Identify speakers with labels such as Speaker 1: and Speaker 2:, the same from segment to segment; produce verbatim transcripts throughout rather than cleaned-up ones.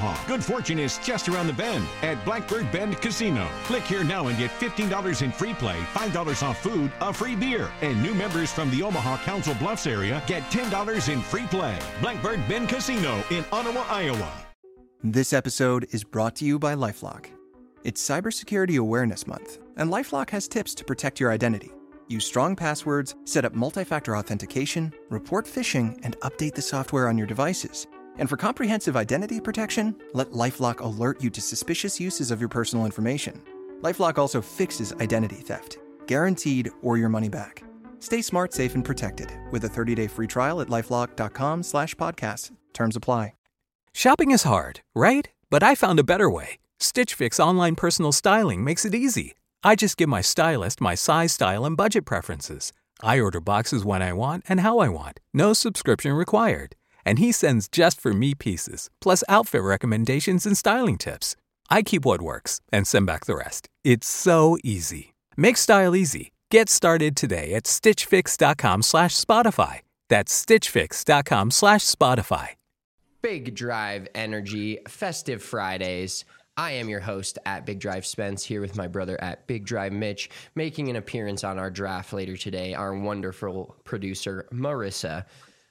Speaker 1: Omaha. Good fortune is just around the bend at Blackbird Bend Casino. Click here now and get fifteen dollars in free play, five dollars off food, a free beer. And new members from the Omaha Council Bluffs area get ten dollars in free play. Blackbird Bend Casino in Ottawa, Iowa.
Speaker 2: This episode is brought to you by LifeLock. It's Cybersecurity Awareness Month, and LifeLock has tips to protect your identity. Use strong passwords, set up multi-factor authentication, report phishing, and update the software on your devices. And for comprehensive identity protection, let LifeLock alert you to suspicious uses of your personal information. LifeLock also fixes identity theft, guaranteed or your money back. Stay smart, safe, and protected with a thirty-day free trial at LifeLock.com slash podcast. Terms apply.
Speaker 3: Shopping is hard, right? But I found a better way. Stitch Fix online personal styling makes it easy. I just give my stylist my size, style, and budget preferences. I order boxes when I want and how I want. No subscription required. And he sends just for me pieces, plus outfit recommendations and styling tips. I keep what works and send back the rest. It's so easy. Make style easy. Get started today at stitchfix.com slash Spotify. That's stitchfix.com slash Spotify.
Speaker 4: Big Drive Energy, Festive Fridays. I am your host at Big Drive Spence, here with my brother at Big Drive Mitch, making an appearance on our draft later today, our wonderful producer, Marissa.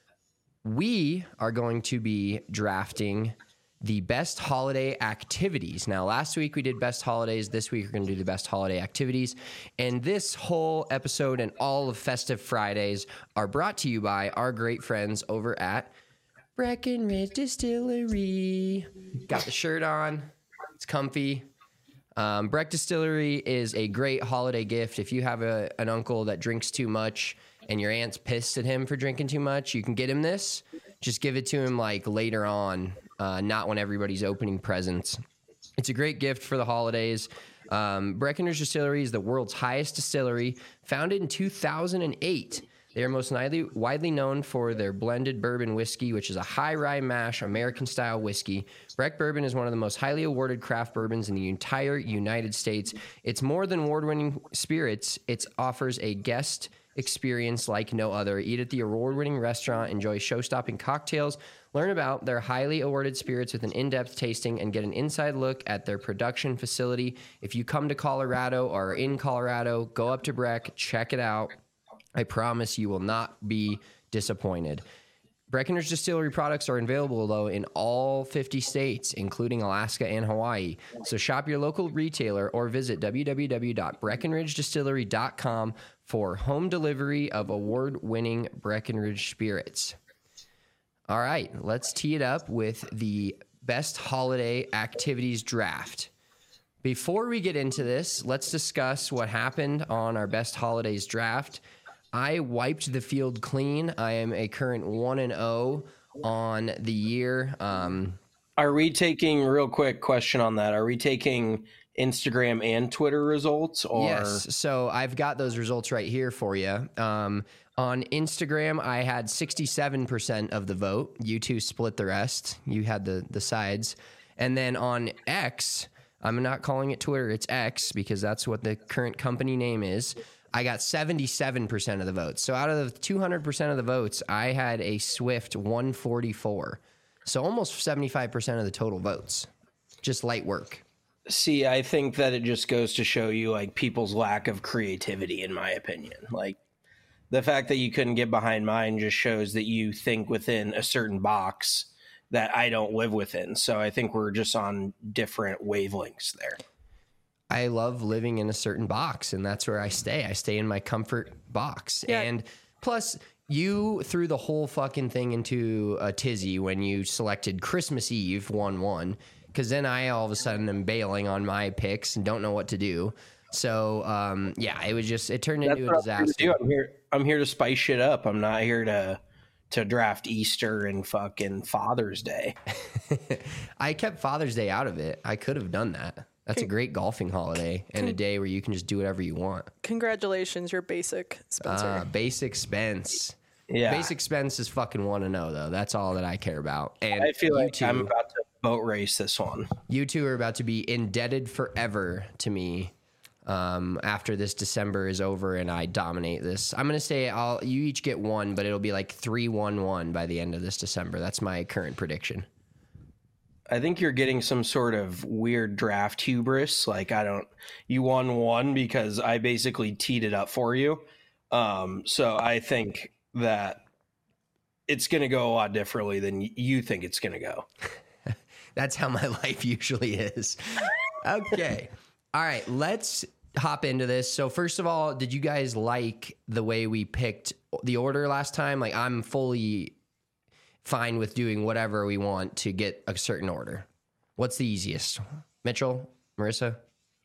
Speaker 4: We are going to be drafting the best holiday activities. Now, last week we did best holidays. This week we're going to do the best holiday activities. And this whole episode and all of Festive Fridays are brought to you by our great friends over at Breckenridge Distillery. Got the shirt on. It's comfy. Um, Breck Distillery is a great holiday gift. If you have a, an uncle that drinks too much and your aunt's pissed at him for drinking too much, you can get him this. Just give it to him like later on, uh, not when everybody's opening presents. It's a great gift for the holidays. Um, Breckenridge Distillery is the world's highest distillery, founded in two thousand eight. They are most widely, widely known for their blended bourbon whiskey, which is a high rye mash American-style whiskey. Breck Bourbon is one of the most highly awarded craft bourbons in the entire United States. It's more than award-winning spirits. It offers a guest experience like no other. Eat at the award-winning restaurant, enjoy show-stopping cocktails, learn about their highly awarded spirits with an in-depth tasting, and get an inside look at their production facility. If you come to Colorado or are in Colorado, go up to Breck, check it out. I promise you will not be disappointed. Breckenridge Distillery products are available, though, in all fifty states, including Alaska and Hawaii. So shop your local retailer or visit w w w dot breckenridge distillery dot com for home delivery of award-winning Breckenridge spirits. All right, let's tee it up with the best holiday activities draft. Before we get into this, let's discuss what happened on our best holidays draft. I wiped the field clean. I am a current one and oh on the year. Um,
Speaker 5: Are we taking, real quick question on that, are we taking Instagram and Twitter results? Or?
Speaker 4: Yes, so I've got those results right here for you. Um, on Instagram, I had sixty-seven percent of the vote. You two split the rest. You had the, the sides. And then on X, I'm not calling it Twitter, it's X, because that's what the current company name is. I got seventy-seven percent of the votes. So out of the two hundred percent of the votes, I had a swift one forty-four. So almost seventy-five percent of the total votes. Just light work.
Speaker 5: See, I think that it just goes to show you like people's lack of creativity, in my opinion. Like the fact that you couldn't get behind mine just shows that you think within a certain box that I don't live within. So I think we're just on different wavelengths there.
Speaker 4: I love living in a certain box, and that's where I stay. I stay in my comfort box. Yeah. And plus, you threw the whole fucking thing into a tizzy when you selected Christmas Eve one one, because then I all of a sudden am bailing on my picks and don't know what to do. So, um, yeah, it was just, it turned
Speaker 5: That's
Speaker 4: into a disaster.
Speaker 5: I'm here, I'm here to spice shit up. I'm not here to to draft Easter and fucking Father's Day.
Speaker 4: I kept Father's Day out of it. I could have done that. That's a great golfing holiday and a day where you can just do whatever you want.
Speaker 6: Congratulations, you're basic, Spencer.
Speaker 4: Uh, basic Spence.
Speaker 5: Yeah.
Speaker 4: Basic Spence is fucking one to know, though. That's all that I care about. And
Speaker 5: I feel like
Speaker 4: two,
Speaker 5: I'm about to boat race this one.
Speaker 4: You two are about to be indebted forever to me um, after this December is over and I dominate this. I'm going to say I'll you each get one, but it'll be like three one one by the end of this December. That's my current prediction.
Speaker 5: I think you're getting some sort of weird draft hubris. Like, I don't, you won one because I basically teed it up for you. Um, so I think that it's going to go a lot differently than you think it's going to go.
Speaker 4: That's how my life usually is. Okay. All right. Let's hop into this. So first of all, did you guys like the way we picked the order last time? Like, I'm fully fine with doing whatever we want to get a certain order. What's the easiest? Mitchell, Marissa?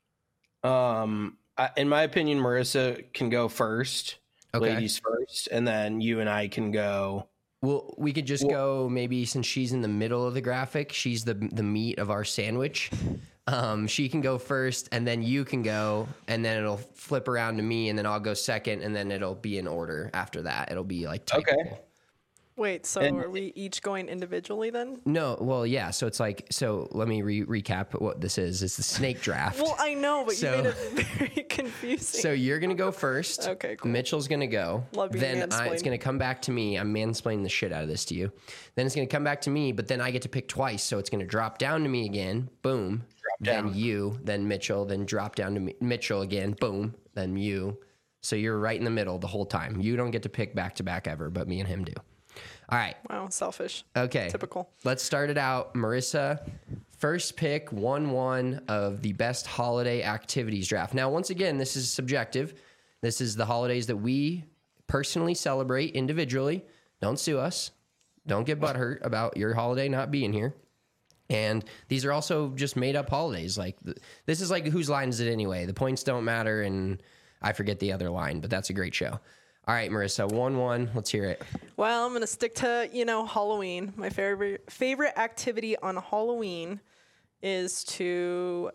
Speaker 5: Um, I, in my opinion, Marissa can go first,
Speaker 4: Okay.
Speaker 5: ladies first, and then you and I can go.
Speaker 4: Well, we could just
Speaker 5: Well-
Speaker 4: go maybe since she's in the middle of the graphic, she's the the meat of our sandwich. Um, she can go first, and then you can go, and then it'll flip around to me, and then I'll go second, and then it'll be in order after that. It'll be like typical.
Speaker 5: Okay.
Speaker 6: Wait, so
Speaker 5: And-
Speaker 6: are we each going individually then?
Speaker 4: No, well, yeah. So it's like, so let me re- recap what this is. It's the snake draft.
Speaker 6: Well, I know, but
Speaker 4: So-
Speaker 6: you made it very confusing.
Speaker 4: So you're gonna go first.
Speaker 6: Okay, cool.
Speaker 4: Mitchell's gonna go.
Speaker 6: Love being
Speaker 4: then I, it's
Speaker 6: mansplained.
Speaker 4: gonna come back to me. I'm mansplaining the shit out of this to you. Then it's gonna come back to me, but then I get to pick twice. So it's gonna drop down to me again. Boom.
Speaker 5: Drop
Speaker 4: Then
Speaker 5: down.
Speaker 4: you. Then Mitchell. Then drop down to me. Mitchell again. Boom. Then you. So you're right in the middle the whole time. You don't get to pick back to back ever, but me and him do. All right.
Speaker 6: Wow, selfish.
Speaker 4: Okay.
Speaker 6: Typical.
Speaker 4: Let's start it out. Marissa, first pick, one one of the best holiday activities draft. Now, once again, this is subjective. This is the holidays that we personally celebrate individually. Don't sue us. Don't get butthurt about your holiday not being here. And these are also just made up holidays. Like th- this is like whose line is it anyway? The points don't matter, and I forget the other line, but that's a great show. All right, Marissa, one one. Let's hear it.
Speaker 6: Well, I'm gonna stick to, you know, Halloween. My favorite favorite activity on Halloween is to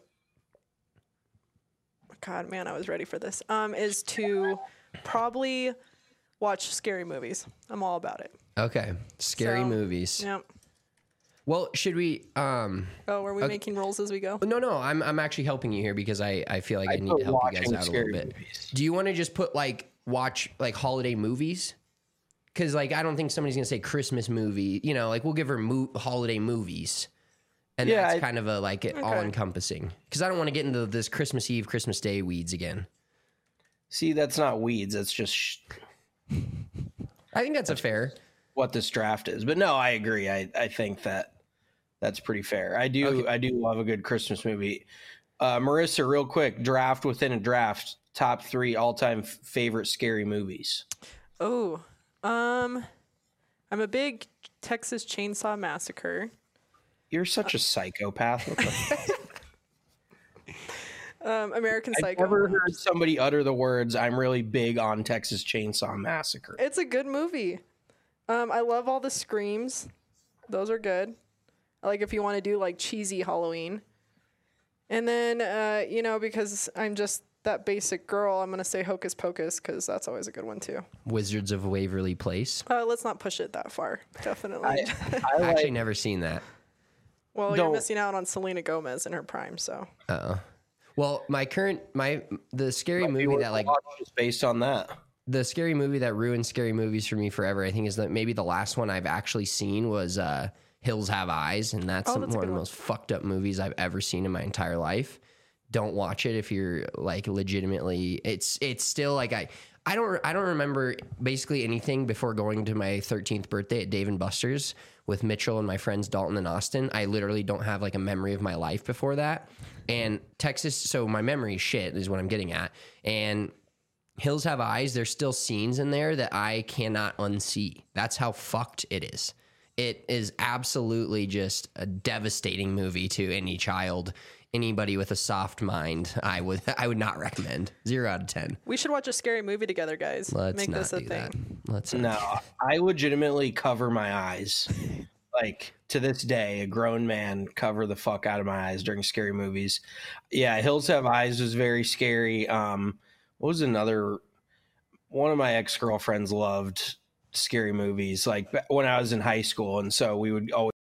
Speaker 6: God, man, I was ready for this. Um, is to probably watch scary movies. I'm all about it.
Speaker 4: Okay, scary
Speaker 6: So,
Speaker 4: movies.
Speaker 6: Yep.
Speaker 4: Well, should we? Um,
Speaker 6: Oh, are we
Speaker 4: Okay.
Speaker 6: making rolls as we go?
Speaker 4: no, no. I'm I'm actually helping you here because I, I feel like I,
Speaker 5: I
Speaker 4: need
Speaker 5: put
Speaker 4: to help you guys
Speaker 5: watching
Speaker 4: out a
Speaker 5: scary
Speaker 4: little bit.
Speaker 5: movies.
Speaker 4: Do you want to just put like watch like holiday movies? Because like I don't think somebody's gonna say Christmas movie. You know, like we'll give her mo- holiday movies, and
Speaker 5: Yeah,
Speaker 4: that's
Speaker 5: I-
Speaker 4: kind of a like it all encompassing. Because I don't want to get into this Christmas Eve, Christmas Day weeds again.
Speaker 5: See, that's not weeds. That's just sh-
Speaker 4: I think that's a fair.
Speaker 5: what this draft is. But no, I agree. I, I think that that's pretty fair. I do
Speaker 4: Okay.
Speaker 5: I do love a good Christmas movie. Uh, Marissa, real quick, draft within a draft, top three all time f- favorite scary movies.
Speaker 6: Oh, um, I'm a big Texas Chainsaw Massacre.
Speaker 5: You're such a psychopath. What the fuck?
Speaker 6: Um, American
Speaker 5: I've
Speaker 6: Psycho.
Speaker 5: never heard somebody utter the words, I'm really big on Texas Chainsaw Massacre.
Speaker 6: It's a good movie. Um, I love all the screams. Those are good. I like if you want to do like cheesy Halloween. And then, uh, you know, because I'm just that basic girl, I'm going to say Hocus Pocus because that's always a good one too.
Speaker 4: Wizards of Waverly Place.
Speaker 6: Uh, let's not push it that far. Definitely.
Speaker 5: I, I
Speaker 4: I've actually
Speaker 5: like,
Speaker 4: never seen that.
Speaker 6: well, you're
Speaker 5: don't-
Speaker 6: missing out on Selena Gomez in her prime. So
Speaker 4: Uh-oh. Well, my current my the scary movie
Speaker 5: worth
Speaker 4: that like
Speaker 5: watch just based on that.
Speaker 4: the scary movie that ruined scary movies for me forever, I think, is that maybe the last one I've actually seen was uh, Hills Have Eyes, and that's,
Speaker 6: Oh, that's a
Speaker 4: one of
Speaker 6: good
Speaker 4: the
Speaker 6: one.
Speaker 4: most fucked up movies I've ever seen in my entire life. Don't watch it if you're like legitimately. It's it's still like I I don't I don't remember basically anything before going to my thirteenth birthday at Dave and Buster's with Mitchell and my friends Dalton and Austin. I literally don't have like a memory of my life before that. And Texas, so my memory is shit is what I'm getting at. And Hills Have Eyes, there's still scenes in there that I cannot unsee. That's how fucked it is. It is absolutely just a devastating movie to any child, anybody with a soft mind. I would I would not recommend. Zero out of ten.
Speaker 6: we should watch a scary movie together, guys.
Speaker 4: Let's
Speaker 6: Make
Speaker 4: not
Speaker 6: this a
Speaker 4: do
Speaker 6: thing.
Speaker 4: that. Let's
Speaker 5: No, I legitimately cover my eyes. Like to this day, a grown man cover the fuck out of my eyes during scary movies. Yeah, Hills Have Eyes was very scary. Um, what was another? One of my ex girlfriends loved scary movies. Like when I was in high school, and so we would always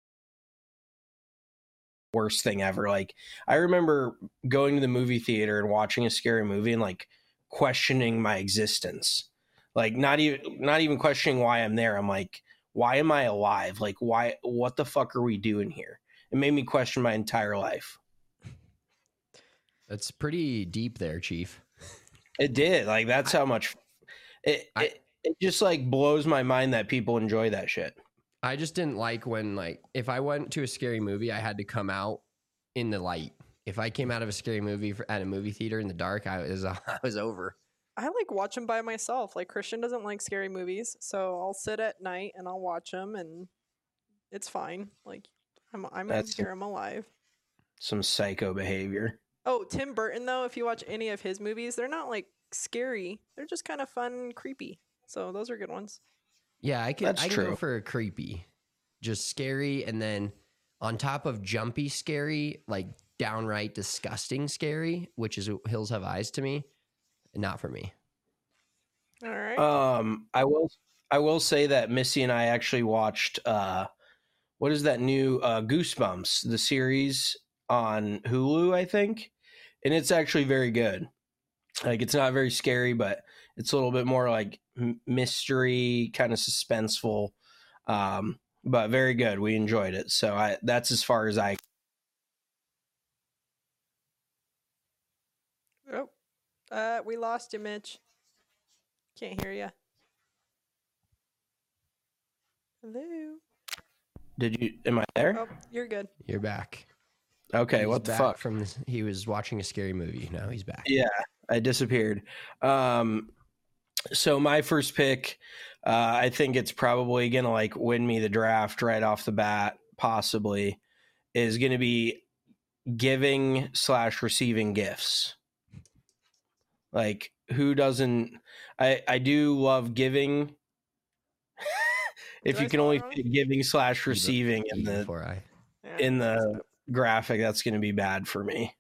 Speaker 5: worst thing ever. Like I remember going to the movie theater and watching a scary movie and like questioning my existence. Like not even not even questioning why I'm there. I'm like, why am I alive? Like why what the fuck are we doing here? it made me question my entire life.
Speaker 4: That's pretty deep there, Chief.
Speaker 5: It did. Like, that's how much it,
Speaker 4: I,
Speaker 5: it it just like blows my mind that people enjoy that shit.
Speaker 4: I just didn't like when, like, if I went to a scary movie, I had to come out in the light. If I came out of a scary movie for, at a movie theater in the dark, I was I was over.
Speaker 6: I like watch them by myself. Like Christian doesn't like scary movies, so I'll sit at night and I'll watch them, and it's fine. Like I'm I'm
Speaker 5: That's
Speaker 6: here. I'm alive.
Speaker 5: Some psycho behavior.
Speaker 6: Oh, Tim Burton though, if you watch any of his movies, they're not like scary. They're just kind of fun and creepy. So those are good ones.
Speaker 4: Yeah, I can
Speaker 5: That's
Speaker 4: I can
Speaker 5: true.
Speaker 4: go for a creepy, just scary, and then on top of jumpy scary, like downright disgusting scary, which is Hills Have Eyes to me. Not for me.
Speaker 6: All right.
Speaker 5: Um, I will I will say that Missy and I actually watched uh, what is that new uh, Goosebumps, the series on Hulu, I think, and it's actually very good. Like, it's not very scary, but it's a little bit more like m- mystery, kind of suspenseful, um, but very good. We enjoyed it. So I that's as far as I.
Speaker 6: Oh, uh, we lost you, Mitch. Can't hear you. Hello.
Speaker 5: Did you? Am I there?
Speaker 6: Oh, you're good.
Speaker 4: You're back.
Speaker 5: Okay.
Speaker 4: He's
Speaker 5: what the
Speaker 4: back
Speaker 5: fuck?
Speaker 4: From this, he was watching a scary movie. Now he's back.
Speaker 5: Yeah, I disappeared. Um, so my first pick, uh, I think it's probably gonna like win me the draft right off the bat. Possibly, is gonna be giving slash receiving gifts. Like, who doesn't? I I do love giving. If
Speaker 6: Did
Speaker 5: you
Speaker 6: I
Speaker 5: can
Speaker 6: spell
Speaker 5: only
Speaker 6: it wrong?
Speaker 5: fit giving slash receiving in
Speaker 4: E
Speaker 5: the
Speaker 4: before I.
Speaker 6: Yeah.
Speaker 5: in the graphic, that's going to be bad for me.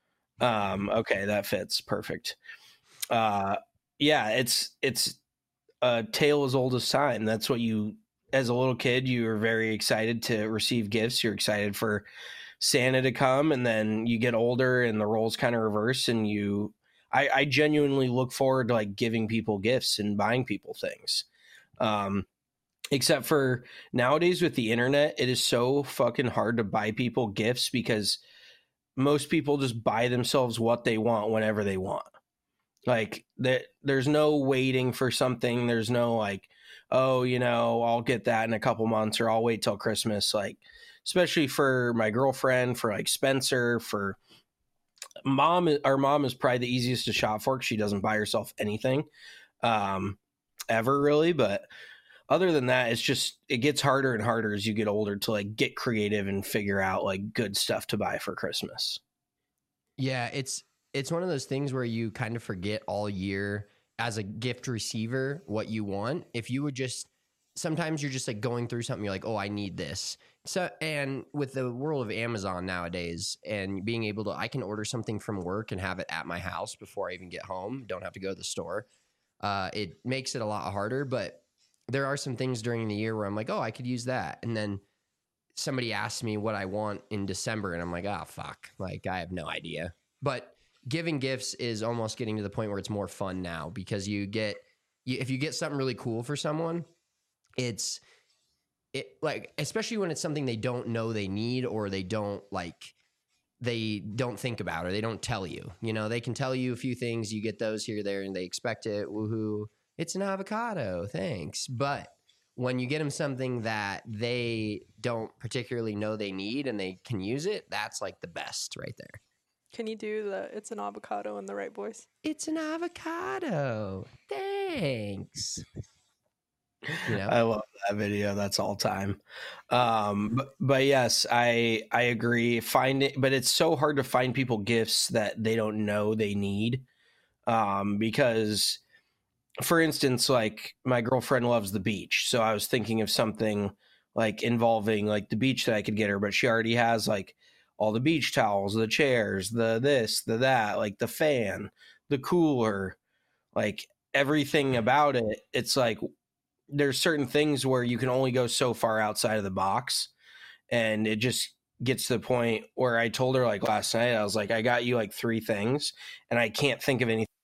Speaker 5: Um, okay, that fits perfect. Uh, yeah, it's it's a tale as old as time. That's what you, as a little kid, you were very excited to receive gifts. You're excited for Santa to come, and then you get older, and the roles kind of reverse, and you. I, I genuinely look forward to like giving people gifts and buying people things. Um, except for nowadays with the internet, it is so fucking hard to buy people gifts because most people just buy themselves what they want whenever they want. Like that, there's no waiting for something. There's no like, oh, you know, I'll get that in a couple months, or I'll wait till Christmas. Like, especially for my girlfriend, for like Spencer, for mom. Our mom is probably the easiest to shop for because she doesn't buy herself anything, um, ever really. But other than that, it's just, it gets harder and harder as you get older to like get creative and figure out like good stuff to buy for Christmas.
Speaker 4: Yeah, it's it's one of those things where you kind of forget all year as a gift receiver what you want. If you would just, sometimes you're just like going through something, you're like, oh, I need this. So, and with the world of Amazon nowadays and being able to, I can order something from work and have it at my house before I even get home. Don't have to go to the store. Uh, it makes it a lot harder, but there are some things during the year where I'm like, oh, I could use that. And then somebody asks me what I want in December, and I'm like, oh, fuck. Like, I have no idea. But giving gifts is almost getting to the point where it's more fun now because you get, you, if you get something really cool for someone, it's it like, especially when it's something they don't know they need or they don't like, they don't think about or they don't tell you. You know, they can tell you a few things. You get those here, there, and they expect it. Woohoo. It's an avocado. Thanks. But when you get them something that they don't particularly know they need and they can use it, that's like the best right there.
Speaker 6: Can you do the "it's an avocado" in the right voice?
Speaker 4: It's an avocado. Thanks. You know?
Speaker 5: I love that video. That's all time. Um, but, but yes, I I agree. Find it, but it's so hard to find people gifts that they don't know they need. Um, because, for instance, like my girlfriend loves the beach, so I was thinking of something like involving like the beach that I could get her, but she already has like all the beach towels, the chairs, the this, the that, like the fan, the cooler, like everything about it. It's like there's certain things where you can only go so far outside of the box, and it just gets to the point where I told her like last night, I was like, I got you like three things and I can't think of anything.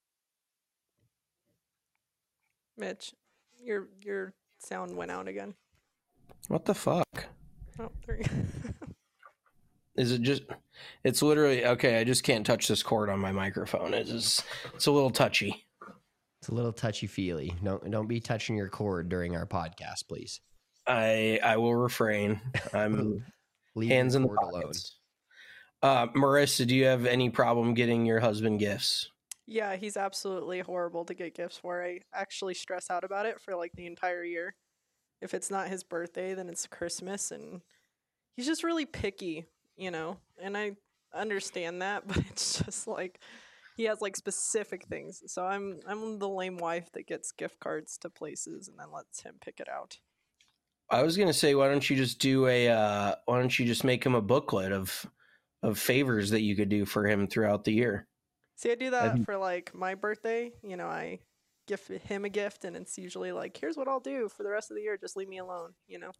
Speaker 6: Mitch, your your sound went out again.
Speaker 5: What the fuck?
Speaker 6: Oh, there you go.
Speaker 5: Is it just? It's literally okay. I just can't touch this cord on my microphone. It's just, it's a little touchy.
Speaker 4: It's a little touchy feely. Don't don't be touching your cord during our podcast, please.
Speaker 5: I I will refrain. I'm
Speaker 4: Leave
Speaker 5: hands in
Speaker 4: your
Speaker 5: the
Speaker 4: cord
Speaker 5: pockets. Uh, Marissa, do you have any problem getting your husband gifts?
Speaker 6: Yeah, he's absolutely horrible to get gifts for. I actually stress out about it for like the entire year. If it's not his birthday, then it's Christmas, and he's just really picky, you know. And I understand that, but it's just like he has like specific things. So I'm I'm the lame wife that gets gift cards to places and then lets him pick it out.
Speaker 5: I was gonna say, why don't you just do a? Uh, why don't you just make him a booklet of of favors that you could do for him throughout the year?
Speaker 6: See, I do that
Speaker 5: think-
Speaker 6: for like my birthday. You know, I give him a gift, and it's usually like, here's what I'll do for the rest of the year. Just leave me alone, you know?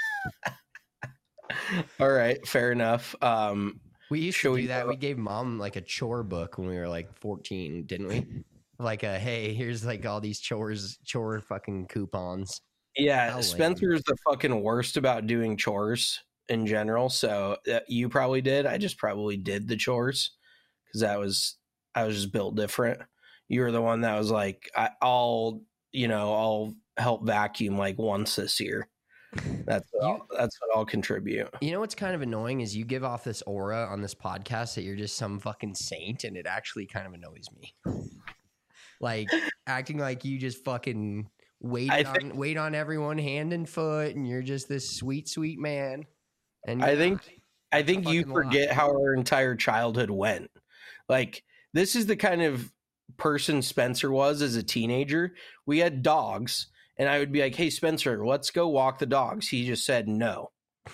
Speaker 5: All right, fair enough. Um,
Speaker 4: We used
Speaker 5: Shall
Speaker 4: to
Speaker 5: we
Speaker 4: do that.
Speaker 5: go-
Speaker 4: We gave mom like a chore book when we were like fourteen, didn't we? Like a hey, here's like all these chores, chore fucking coupons.
Speaker 5: yeah,
Speaker 4: How lame.
Speaker 5: Spencer is the fucking worst about doing chores in general. So uh, you probably did. I just probably did the chores because that was I was just built different. You were the one that was like, I, I'll you know I'll help vacuum like once this year. That's what
Speaker 4: You-
Speaker 5: I'll, that's what I'll contribute.
Speaker 4: You know what's kind of annoying is you give off this aura on this podcast that you're just some fucking saint, and it actually kind of annoys me. Like acting like you just fucking wait
Speaker 5: I
Speaker 4: on
Speaker 5: think-
Speaker 4: wait on everyone hand and foot, and you're just this sweet, sweet man. And
Speaker 5: I
Speaker 4: you're
Speaker 5: think
Speaker 4: not.
Speaker 5: I think you
Speaker 4: fucking lie.
Speaker 5: forget how our entire childhood went. Like this is the kind of person Spencer was as a teenager. We had dogs, and I would be like, "Hey Spencer, let's go walk the dogs." He just said no.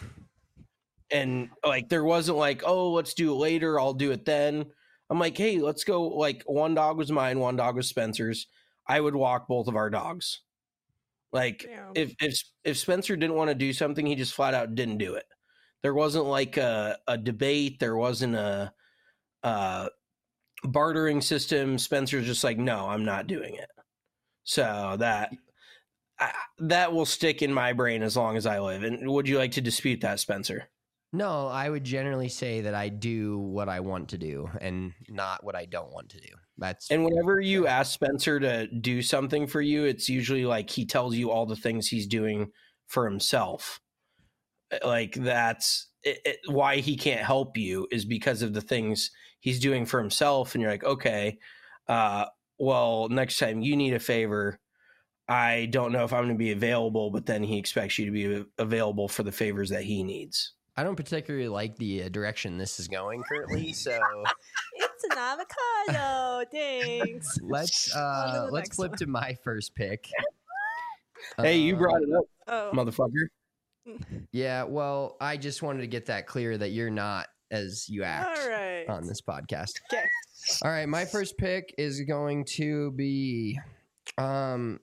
Speaker 5: And like there wasn't like, "Oh, let's do it later, I'll do it then." I'm like, "Hey, let's go." Like one dog was mine, one dog was Spencer's. I would walk both of our dogs. Like
Speaker 6: Damn.
Speaker 5: if if if Spencer didn't want to do something, he just flat out didn't do it. There wasn't like a, a debate. There wasn't a, a bartering system. Spencer's just like, no, I'm not doing it. So that I, that will stick in my brain as long as I live. And would you like to dispute that, Spencer?
Speaker 4: No, I would generally say that I do what I want to do and not what I don't want to do. That's
Speaker 5: And whenever you ask Spencer to do something for you, it's usually like he tells you all the things he's doing for himself. Like that's it, it, why he can't help you is because of the things he's doing for himself. And you're like, okay, uh, well, next time you need a favor, I don't know if I'm going to be available, but then he expects you to be available for the favors that he needs.
Speaker 4: I don't particularly like the uh, direction this is going currently, so
Speaker 6: It's an avocado. Thanks.
Speaker 4: let's
Speaker 6: On to
Speaker 4: uh
Speaker 6: the
Speaker 4: let's
Speaker 6: next
Speaker 4: flip
Speaker 6: one.
Speaker 4: to my first pick.
Speaker 5: Hey, you
Speaker 4: Uh,
Speaker 5: brought it up,
Speaker 6: Oh,
Speaker 5: motherfucker.
Speaker 4: Yeah, well, I just wanted to get that clear that you're not as you act
Speaker 6: all right.
Speaker 4: on this podcast.
Speaker 6: Okay.
Speaker 4: All right, my first pick is going to be um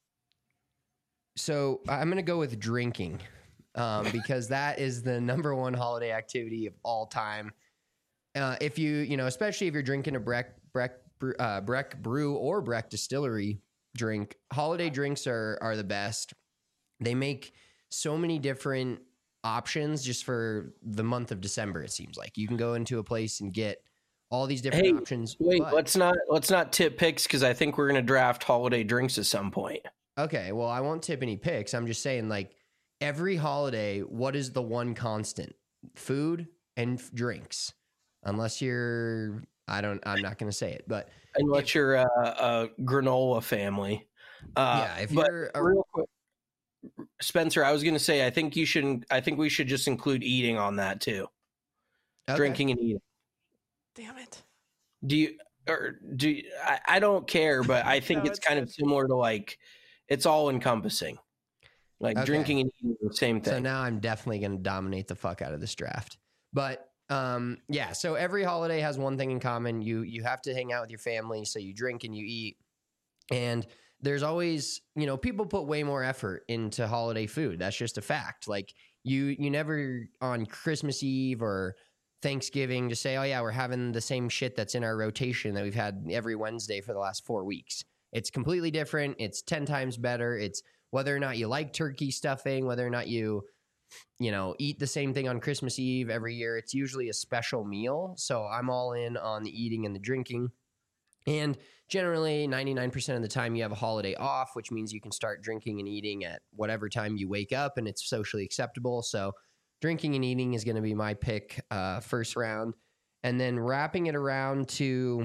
Speaker 4: so I'm going to go with drinking. Um because that is the number one holiday activity of all time. Uh if you, you know, especially if you're drinking a Breck Breck Brew- uh Breck Brew or Breck Distillery drink, holiday drinks are are the best. They make so many different options just for the month of December. It seems like you can go into a place and get all these different
Speaker 5: Hey,
Speaker 4: options.
Speaker 5: Wait,
Speaker 4: but-
Speaker 5: let's not let's not tip picks because I think we're going to draft holiday drinks at some point.
Speaker 4: Okay, well, I won't tip any picks. I'm just saying, like, every holiday, what is the one constant? Food and f- drinks. Unless you're, I don't, I'm not going to say it, but
Speaker 5: Unless you're a, a granola family. Uh,
Speaker 4: yeah, if
Speaker 5: but
Speaker 4: you're, a,
Speaker 5: real quick, Spencer, I was going to say I think you should. I think we should just include eating on that too.
Speaker 4: okay.
Speaker 5: Drinking and eating.
Speaker 6: Damn it.
Speaker 5: Do you or do you, I, I don't care, but I think
Speaker 6: No,
Speaker 5: it's
Speaker 6: it's
Speaker 5: kind
Speaker 6: good.
Speaker 5: of similar to like it's all encompassing. Like
Speaker 4: Okay.
Speaker 5: drinking and eating are the same thing.
Speaker 4: So now I'm definitely going to dominate the fuck out of this draft. But um, yeah, so every holiday has one thing in common. You you have to hang out with your family, so you drink and you eat. And there's always, you know, people put way more effort into holiday food. That's just a fact. Like you you never on Christmas Eve or Thanksgiving just say, "Oh yeah, we're having the same shit that's in our rotation that we've had every Wednesday for the last four weeks." It's completely different. It's ten times better. It's whether or not you like turkey stuffing, whether or not you you know, eat the same thing on Christmas Eve every year. It's usually a special meal. So I'm all in on the eating and the drinking. And generally, ninety-nine percent of the time, you have a holiday off, which means you can start drinking and eating at whatever time you wake up, and it's socially acceptable. So drinking and eating is going to be my pick uh, first round. And then wrapping it around to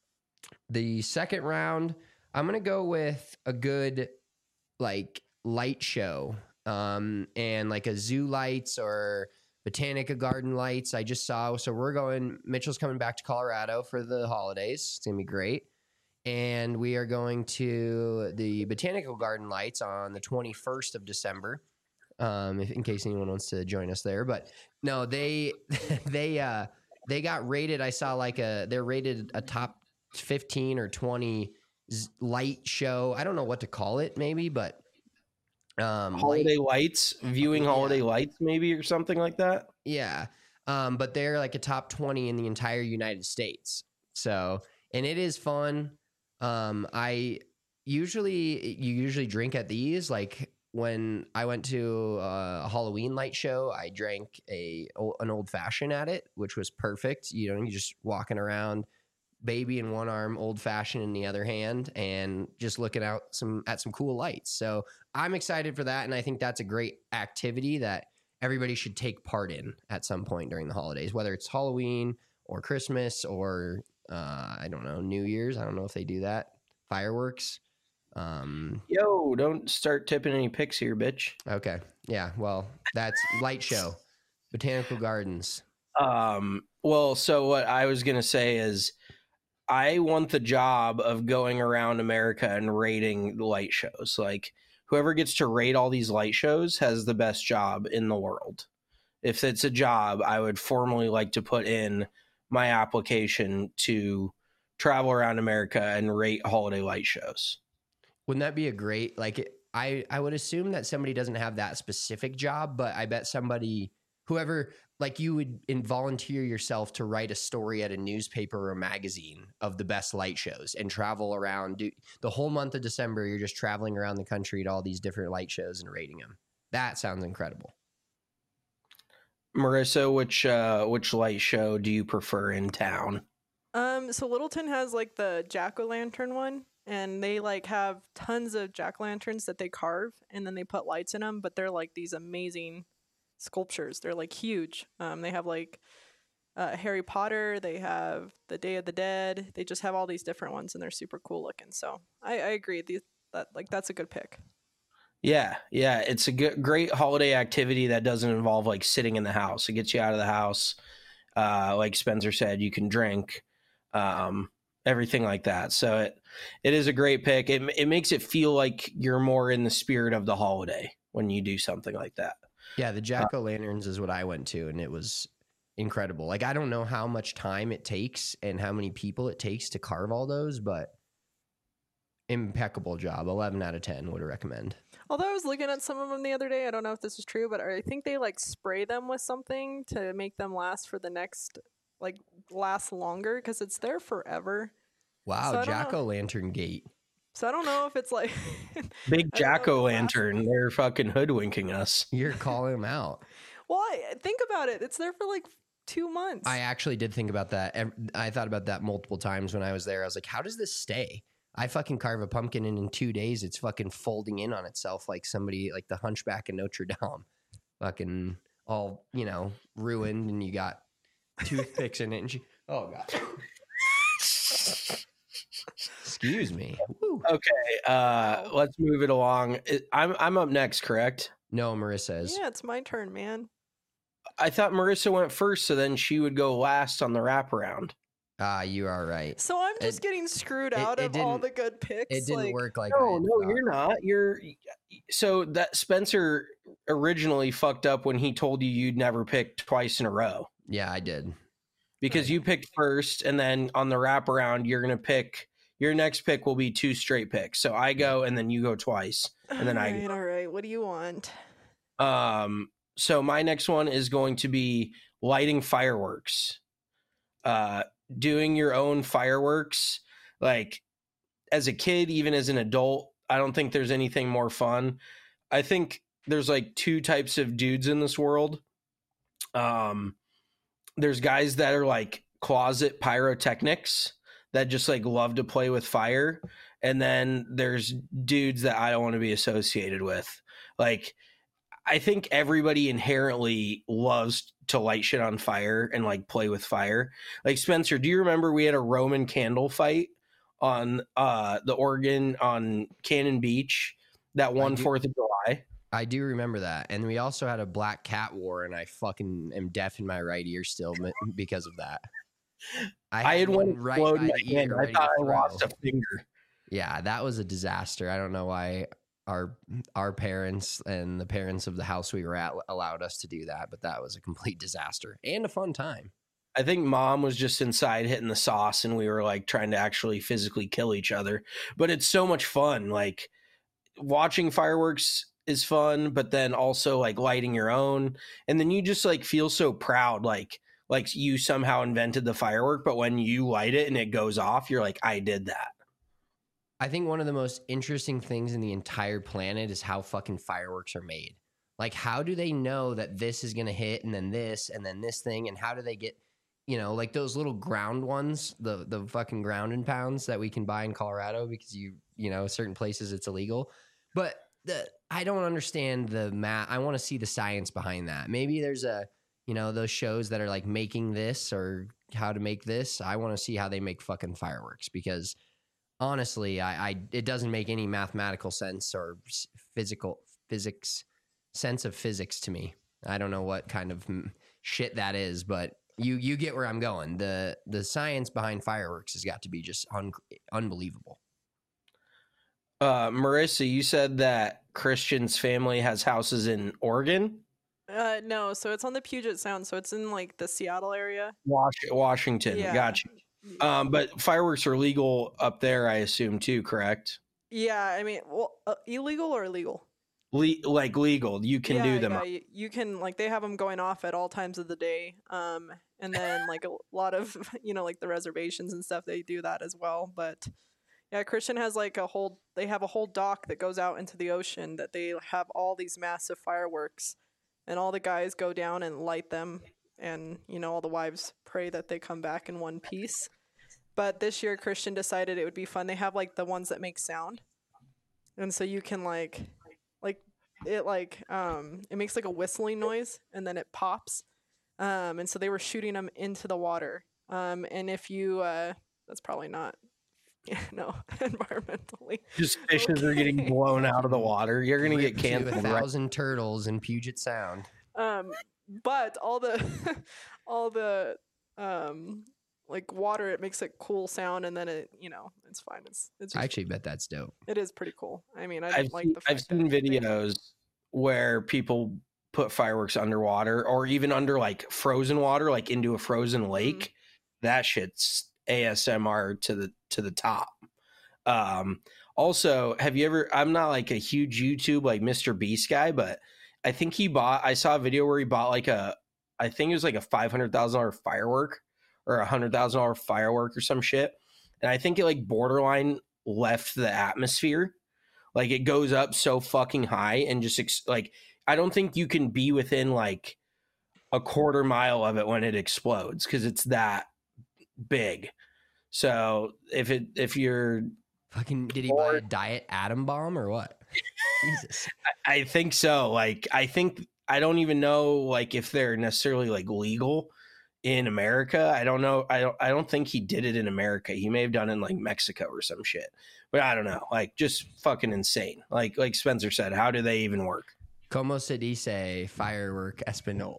Speaker 4: the second round, I'm going to go with a good, like, light show um, and like a zoo lights or Botanica Garden lights I just saw. So we're going, Mitchell's coming back to Colorado for the holidays. It's going to be great. And we are going to the Botanical Garden lights on the twenty-first of December, um, if, in case anyone wants to join us there. But no, they, they, uh, they got rated. I saw like a, they're rated a top fifteen or twenty light show. I don't know what to call it maybe, but um
Speaker 5: holiday
Speaker 4: light,
Speaker 5: lights viewing
Speaker 4: yeah.
Speaker 5: holiday lights maybe or something like that.
Speaker 4: Yeah. Um, but they're like a top twenty in the entire United States. So, and it is fun. Um, I usually, you usually drink at these. Like when I went to a Halloween light show, I drank a, an old fashioned at it, which was perfect. You know, you just walking around, baby in one arm, old fashioned in the other hand, and just looking out some at some cool lights. So I'm excited for that. And I think that's a great activity that everybody should take part in at some point during the holidays, whether it's Halloween or Christmas or uh, I don't know, New Year's. I don't know if they do that. Fireworks. Um,
Speaker 5: Yo, don't start tipping any picks here, bitch.
Speaker 4: Okay. Yeah. Well, that's light show, Botanical Gardens.
Speaker 5: Um, well, so what I was going to say is I want the job of going around America and rating the light shows. Like whoever gets to rate all these light shows has the best job in the world. If it's a job, I would formally like to put in my application to travel around America and rate holiday light shows.
Speaker 4: Wouldn't that be a great, like, I, I would assume that somebody doesn't have that specific job, but I bet somebody, whoever, like you would in volunteer yourself to write a story at a newspaper or a magazine of the best light shows and travel around. Do, the whole month of December, you're just traveling around the country to all these different light shows and rating them. That sounds incredible.
Speaker 5: Marissa, which uh, which light show do you prefer in town?
Speaker 6: Um, so Littleton has like the jack-o'-lantern one, and they like have tons of jack-o'-lanterns that they carve, and then they put lights in them, but they're like these amazing sculptures. They're like huge. Um, they have like uh, Harry Potter, they have the Day of the Dead, they just have all these different ones, and they're super cool looking. So I, I agree. These, that like that's a good pick.
Speaker 5: Yeah, yeah, it's a good, great holiday activity that doesn't involve like sitting in the house. It gets you out of the house. Uh, like Spencer said, you can drink, um, everything like that. So it it is a great pick. It it makes it feel like you're more in the spirit of the holiday when you do something like that.
Speaker 4: Yeah, the jack-o'-lanterns is what I went to, and it was incredible. Like, I don't know how much time it takes and how many people it takes to carve all those, but impeccable job. eleven out of ten would recommend.
Speaker 6: Although I was looking at some of them the other day, I don't know if this is true, but I think they like spray them with something to make them last for the next, like last longer, because it's there forever.
Speaker 4: Wow,
Speaker 6: So I don't know.
Speaker 4: jack-o'-lantern gate.
Speaker 6: So I don't know if it's like
Speaker 5: Big
Speaker 6: I don't know if it
Speaker 5: jack-o'-lantern.
Speaker 6: lasts-
Speaker 5: They're fucking hoodwinking us.
Speaker 4: You're calling them out.
Speaker 6: Well, I, think about it. It's there for like two months.
Speaker 4: I actually did think about that. Ev- I thought about that multiple times when I was there. I was like, how does this stay? I fucking carve a pumpkin and in two days it's fucking folding in on itself like somebody, like the Hunchback of Notre Dame. Fucking all, you know, ruined, and you got toothpicks in it. And she, oh, God. Excuse me. Woo.
Speaker 5: Okay, uh, let's move it along. I'm I'm up next, correct?
Speaker 4: No, Marissa is.
Speaker 6: yeah, it's my turn, man.
Speaker 5: I thought Marissa went first, so then she would go last on the wraparound.
Speaker 4: Ah, you are right.
Speaker 6: So I'm just
Speaker 4: It-
Speaker 6: getting screwed
Speaker 4: it-
Speaker 6: out
Speaker 4: it
Speaker 6: of all
Speaker 4: didn't-
Speaker 6: the good picks.
Speaker 4: It didn't
Speaker 6: like,
Speaker 4: work like
Speaker 5: No,
Speaker 4: I
Speaker 5: no,
Speaker 4: thought.
Speaker 5: you're not. You're so that Spencer originally fucked up when he told you you'd never pick twice in a row
Speaker 4: Yeah, I did.
Speaker 5: because you picked first, and then on the wraparound you're gonna pick. Your next pick will be two straight picks. So I go, and then you go twice, and then
Speaker 6: all
Speaker 5: I
Speaker 6: right,
Speaker 5: go.
Speaker 6: all right. What do you want?
Speaker 5: Um, so my next one is going to be lighting fireworks. Uh, doing your own fireworks, like as a kid, even as an adult, I don't think there's anything more fun. I think there's like two types of dudes in this world. Um, there's guys that are like closet pyrotechnics that just like love to play with fire. And then there's dudes that I don't want to be associated with. Like, I think everybody inherently loves to light shit on fire and like play with fire. Like, Spencer, do you remember we had a Roman candle fight on uh, the Oregon on Cannon Beach that one fourth of July?
Speaker 4: I do remember that. And we also had a black cat war, and I fucking am deaf in my right ear still because of that.
Speaker 5: I had, I had one right explode in my hand. I thought I lost a finger.
Speaker 4: Yeah, that was a disaster. I don't know why our our parents and the parents of the house we were at allowed us to do that, but that was a complete disaster and a fun time.
Speaker 5: I think mom was just inside hitting the sauce, and we were like trying to actually physically kill each other. But it's so much fun. Like, watching fireworks is fun, but then also like lighting your own, and then you just like feel so proud, like like you somehow invented the firework. But when you light it and it goes off, you're like, I did that.
Speaker 4: I think one of the most interesting things in the entire planet is how fucking fireworks are made. Like, how do they know that this is going to hit and then this and then this thing? And how do they get, you know, like those little ground ones, the the fucking ground and pounds that we can buy in Colorado because, you, you know, certain places it's illegal. But the I don't understand the math. I want to see the science behind that. Maybe there's a, you know, those shows that are like making this or how to make this. I want to see how they make fucking fireworks because honestly, I, I it doesn't make any mathematical sense or physical physics sense of physics to me. I don't know what kind of shit that is, but you you get where I'm going. The the science behind fireworks has got to be just un, unbelievable.
Speaker 5: Uh, Marissa, you said that Christian's family has houses in Oregon?
Speaker 6: Uh, no, so it's on the Puget Sound, so it's in like the Seattle area.
Speaker 5: Was- Washington, yeah. Gotcha. Um, but fireworks are legal up there, I assume, too, correct?
Speaker 6: Yeah, I mean, well, uh, illegal or legal?
Speaker 5: Le- like legal, you can
Speaker 6: yeah,
Speaker 5: do them.
Speaker 6: Yeah, you, you can, like, they have them going off at all times of the day. Um, and then, like, a lot of, you know, like the reservations and stuff, they do that as well. But yeah, Christian has like a whole, they have a whole dock that goes out into the ocean that they have all these massive fireworks. And all the guys go down and light them. And, you know, all the wives pray that they come back in one piece. But this year, Christian decided it would be fun. They have, like, the ones that make sound. And so you can, like, like, it, like, um, it makes, like, a whistling noise. And then it pops. Um, and so they were shooting them into the water. Um, and if you, uh, that's probably not, you know, environmentally.
Speaker 5: Just fishes okay. are getting blown out of the water. You're going to get canceled.
Speaker 4: A thousand right? turtles in Puget Sound.
Speaker 6: Um, but all the, all the, um, like water, it makes a cool sound, and then it, you know, it's fine. It's, it's. Just,
Speaker 4: I actually bet that's dope.
Speaker 6: It is pretty cool. I mean, I
Speaker 5: I've
Speaker 6: like
Speaker 5: seen,
Speaker 6: the. Fact
Speaker 5: I've seen videos where people put fireworks underwater, or even under like frozen water, like into a frozen lake. Mm-hmm. That shit's A S M R to the to the top. Um, also, have you ever? I'm not like a huge YouTube like Mister Beast guy, but I think he bought. I saw a video where he bought like a. I think it was like a five hundred thousand dollar firework. Or a hundred thousand dollar firework or some shit, and I think it like borderline left the atmosphere, like it goes up so fucking high and just ex- like I don't think you can be within like a quarter mile of it when it explodes because it's that big. So if it if you're
Speaker 4: fucking did he or, buy a diet atom bomb or what? Jesus,
Speaker 5: I, I think so. Like I think I don't even know like if they're necessarily like legal in America. I don't know. I don't I don't think he did it in America. He may have done it in like Mexico or some shit. But I don't know. Like just fucking insane. Like like Spencer said, how do they even work?
Speaker 4: Como se dice firework español?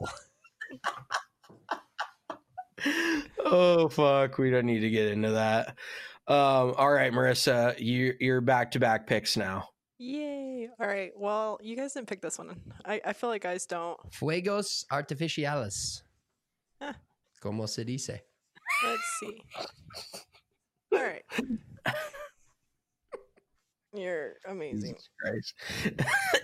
Speaker 5: Oh fuck, we don't need to get into that. Um all right, Marissa, you you're back to back picks now.
Speaker 6: Yay. All right. Well, you guys didn't pick this one. I, I feel like guys don't.
Speaker 4: Fuegos artificiales.
Speaker 6: Huh.
Speaker 4: Como se dice?
Speaker 6: Let's see. All right. You're amazing. Did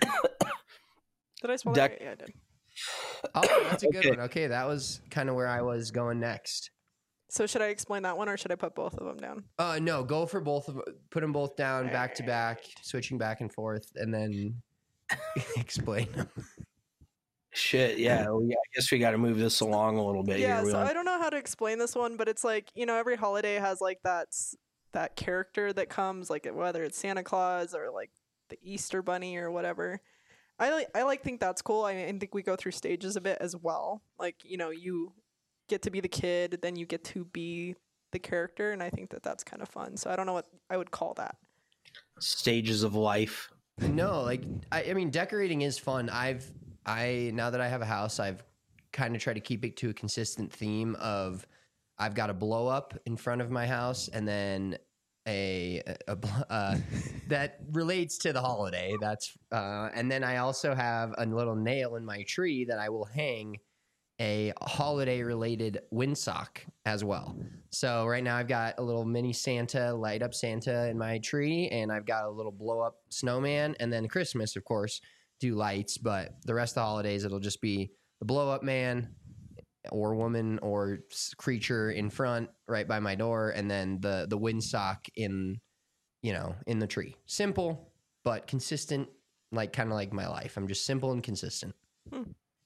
Speaker 6: I spell that right? Yeah, I did.
Speaker 4: Oh, that's a good okay. one. Okay, that was kind of where I was going next.
Speaker 6: So should I explain that one or should I put both of them down?
Speaker 4: Uh, no, go for both of them. Put them both down back to back, switching back and forth, and then explain them.
Speaker 5: Shit, yeah. Well, yeah, I guess we got to move this along a little bit
Speaker 6: Yeah,
Speaker 5: here. We
Speaker 6: so
Speaker 5: don't-
Speaker 6: I don't know how to explain this one, but it's like, you know, every holiday has like that s- that character that comes, like whether it's Santa Claus or like the Easter Bunny or whatever. I like I like think that's cool. I, I think we go through stages a bit as well. Like, you know, you get to be the kid, then you get to be the character, and I think that that's kind of fun. So I don't know what I would call that.
Speaker 5: stages of life.
Speaker 4: No, like I, I mean, decorating is fun. I've I now that I have a house, I've kind of tried to keep it to a consistent theme of I've got a blow up in front of my house, and then a, a, a uh, that relates to the holiday. That's uh, and then I also have a little nail in my tree that I will hang a holiday related windsock as well. So right now I've got a little mini Santa, light up Santa in my tree, and I've got a little blow up snowman, and then Christmas, of course, do lights, but the rest of the holidays it'll just be the blow up man or woman or creature in front right by my door, and then the the windsock in, you know, in the tree. Simple but consistent, like kind of like my life. I'm just simple and consistent.
Speaker 6: Hmm.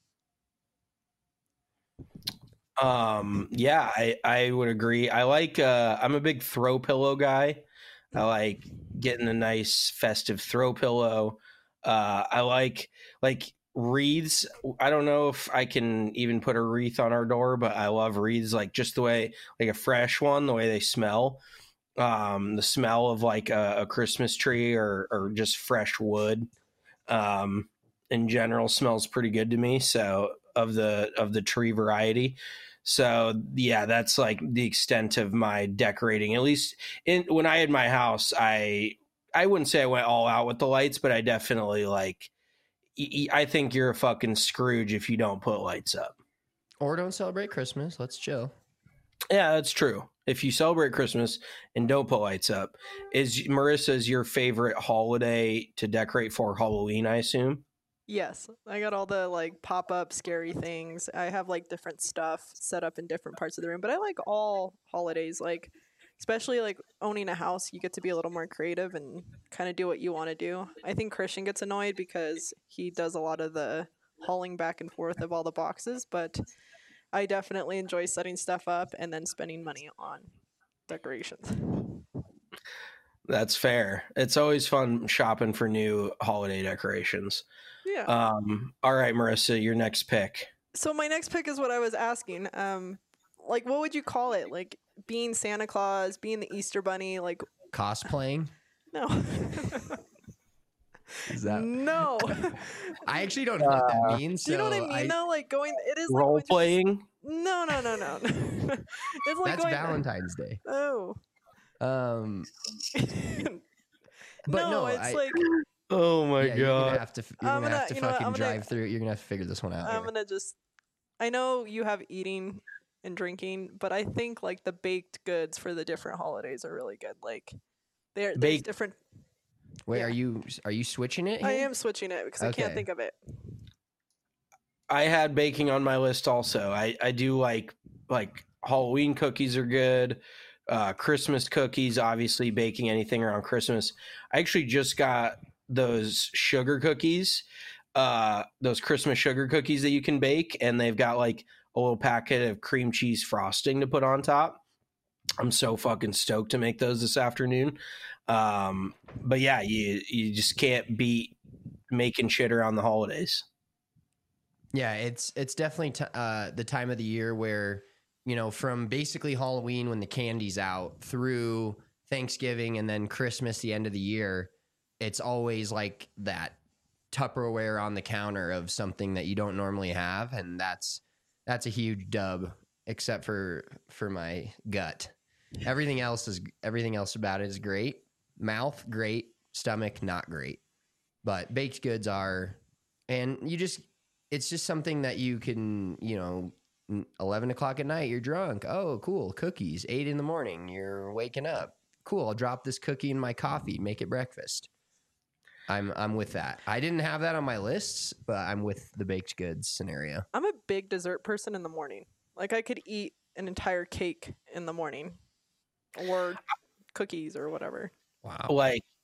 Speaker 5: Um, yeah, I, I would agree. I like, uh, I'm a big throw pillow guy. I like getting a nice festive throw pillow. Uh, I like, like wreaths. I don't know if I can even put a wreath on our door, but I love wreaths, like just the way, like a fresh one, the way they smell. Um, the smell of like a, a Christmas tree or, or just fresh wood, um, in general smells pretty good to me. So of the, of the tree variety. So yeah, that's like the extent of my decorating. At least in when I had my house, I I wouldn't say I went all out with the lights, but I definitely like. I think you're a fucking Scrooge if you don't put lights up.
Speaker 4: Or don't celebrate Christmas. Let's chill.
Speaker 5: Yeah, that's true. If you celebrate Christmas and don't put lights up, is Marissa's your favorite holiday to decorate for Halloween? I assume.
Speaker 6: Yes, I got all the like pop up scary things. I have like different stuff set up in different parts of the room, but I like all holidays. Like, especially like owning a house, you get to be a little more creative and kind of do what you want to do. I think Christian gets annoyed because he does a lot of the hauling back and forth of all the boxes, but I definitely enjoy setting stuff up and then spending money on decorations.
Speaker 5: That's fair. It's always fun shopping for new holiday decorations.
Speaker 6: Yeah.
Speaker 5: Um, all right, Marissa, your next pick.
Speaker 6: So my next pick is what I was asking. Um, like, what would you call it? Like being Santa Claus, being the Easter Bunny, like
Speaker 4: Cosplaying?
Speaker 6: no.
Speaker 4: Is that
Speaker 6: No.
Speaker 4: I actually don't know what that means.
Speaker 6: Do you know what I
Speaker 4: so
Speaker 6: mean though? Like going it is like
Speaker 5: Role
Speaker 6: going to-
Speaker 5: playing.
Speaker 6: No, no, no, no. It's like
Speaker 4: That's
Speaker 6: going
Speaker 4: Valentine's Day.
Speaker 6: Oh.
Speaker 4: Um, but
Speaker 6: no,
Speaker 4: no,
Speaker 6: it's
Speaker 4: I-
Speaker 6: like
Speaker 5: Oh my
Speaker 4: yeah, you're gonna
Speaker 5: god.
Speaker 4: have to. You're
Speaker 6: I'm
Speaker 4: gonna, have
Speaker 6: gonna-
Speaker 4: to
Speaker 6: you know what,
Speaker 4: fucking
Speaker 6: I'm gonna-
Speaker 4: drive through. You're gonna have to figure this one out.
Speaker 6: I'm
Speaker 4: here.
Speaker 6: gonna just I know you have eating and drinking, but I think like the baked goods for the different holidays are really good. Like they're there's
Speaker 5: Baked-
Speaker 6: different
Speaker 4: Wait,
Speaker 6: yeah.
Speaker 4: are you are you switching it?
Speaker 6: I
Speaker 4: here?
Speaker 6: am switching it because I
Speaker 4: Okay.
Speaker 6: can't think of it.
Speaker 5: I had baking on my list also. I, I do like like Halloween cookies are good. Uh, Christmas cookies, obviously baking anything around Christmas. I actually just got those sugar cookies, uh, those Christmas sugar cookies that you can bake, and they've got like a little packet of cream cheese frosting to put on top. I'm so fucking stoked to make those this afternoon. Um, but yeah, you you just can't beat making shit around the holidays.
Speaker 4: Yeah, it's it's definitely t- uh, the time of the year where, you know, from basically Halloween when the candy's out through Thanksgiving and then Christmas, the end of the year, it's always like that Tupperware on the counter of something that you don't normally have, and that's that's a huge dub, except for for my gut. Everything else is everything else about it is great. Mouth great, stomach not great, but baked goods are, and you just it's just something that you can, you know, eleven o'clock at night, you're drunk. Oh, cool. Cookies. eight in the morning, you're waking up. Cool. I'll drop this cookie in my coffee, make it breakfast. I'm I'm with that. I didn't have that on my lists, but I'm with the baked goods scenario.
Speaker 6: I'm a big dessert person in the morning. Like I could eat an entire cake in the morning or cookies or whatever.
Speaker 4: Wow.
Speaker 5: Like